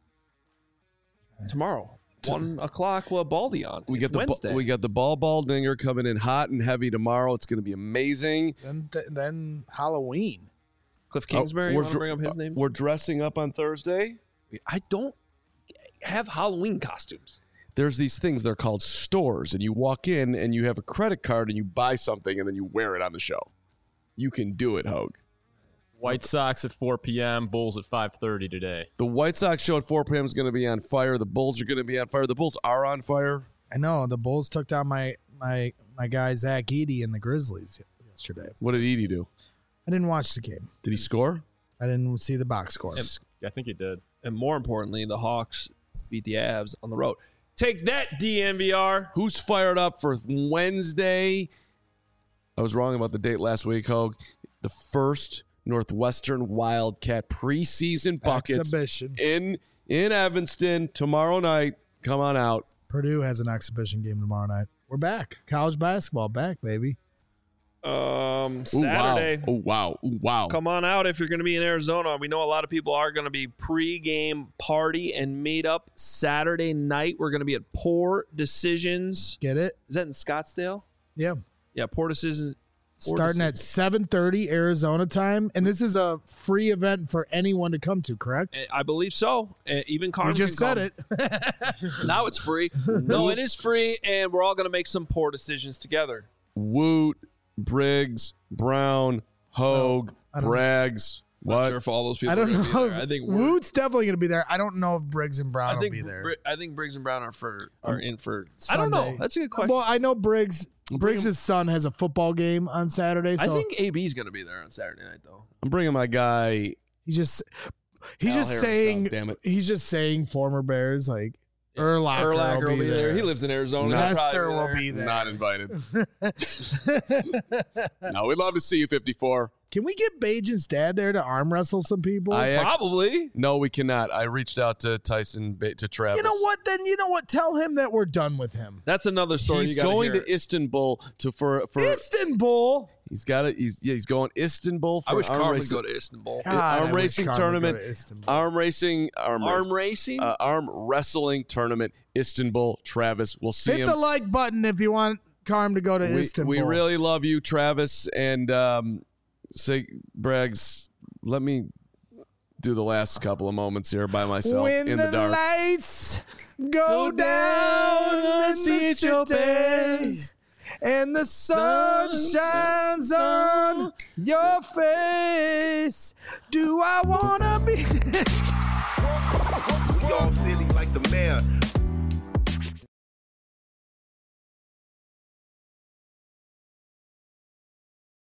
tomorrow, one o'clock, we'll have Baldy on. we It's got the Wednesday. we got the ball ball dinger coming in hot and heavy tomorrow. It's going to be amazing. Then, th- then Halloween. Cliff Kingsbury, you we're want to dr- bring up his name? We're dressing up on Thursday. I don't have Halloween costumes. There's these things, they're called stores, and you walk in and you have a credit card and you buy something and then you wear it on the show. You can do it, Hogue. White Sox at four p.m., Bulls at five thirty today. The White Sox show at four p.m. is going to be on fire. The Bulls are going to be on fire. The Bulls are on fire. I know the Bulls took down my my my guy Zach Edey and the Grizzlies yesterday. What did Edie do? I didn't watch the game. Did he score? I didn't see the box score. I think he did. And more importantly, the Hawks beat the Avs on the road. Take that, D N V R. Who's fired up for Wednesday? I was wrong about the date last week, Hogue. The first Northwestern Wildcat preseason buckets Exhibition. in in Evanston tomorrow night. Come on out. Purdue has an exhibition game tomorrow night. We're back. College basketball back, baby. Um, Ooh, Saturday. wow. Oh, wow. Ooh, wow. Come on out if you're going to be in Arizona. We know a lot of people are going to be pre-game party and meet up Saturday night. We're going to be at Poor Decisions. Get it? Is that in Scottsdale? Yeah. Yeah, Poor Decisions. Poor Starting at Decisions. seven thirty Arizona time. And this is a free event for anyone to come to, correct? I believe so. Uh, even Carmen We just can said come. it. Now it's free. No, it is free, and we're all going to make some Poor Decisions together. Woot, Briggs, Brown, Hogue, I don't- Braggs. I'm not What? sure if all those people I are don't going to be know. there. I think we're, Woot's definitely going to be there. I don't know if Briggs and Brown I think will be there. Bri- I think Briggs and Brown are for are in for. I don't know. Sunday. That's a good question. Well, I know Briggs. I'm bringing- Briggs' son has a football game on Saturday, so I think A B's going to be there on Saturday night, though. I'm bringing my guy. he just he's Al just Harris saying out, damn it. he's just saying former Bears like Urlacher, Urlacher will be there. He lives in Arizona. He'll Lester probably will be there. Not invited. No, we'd love to see you, fifty-four. Can we get Bajan's dad there to arm wrestle some people? I act- Probably. No, we cannot. I reached out to Tyson, Ba- to Travis. you know what? Then you know what? Tell him that we're done with him. That's another story. He's you gotta going hear. to Istanbul to for for. Istanbul. He's got it. He's yeah. He's going Istanbul for I wish arm Carl would racing. go to Istanbul. God, arm I wish racing Carmen would tournament. go to Istanbul. Arm racing. Arm, Arm race- racing? uh, arm wrestling tournament. Istanbul. Travis. We'll see Hit him. the like button if you want Carm to go to we, Istanbul. we really love you, Travis. And um, say, Braggs, let me do the last couple of moments here by myself when in the, the dark. lights go down in the city and the sun shines on your face. Do I wanna be?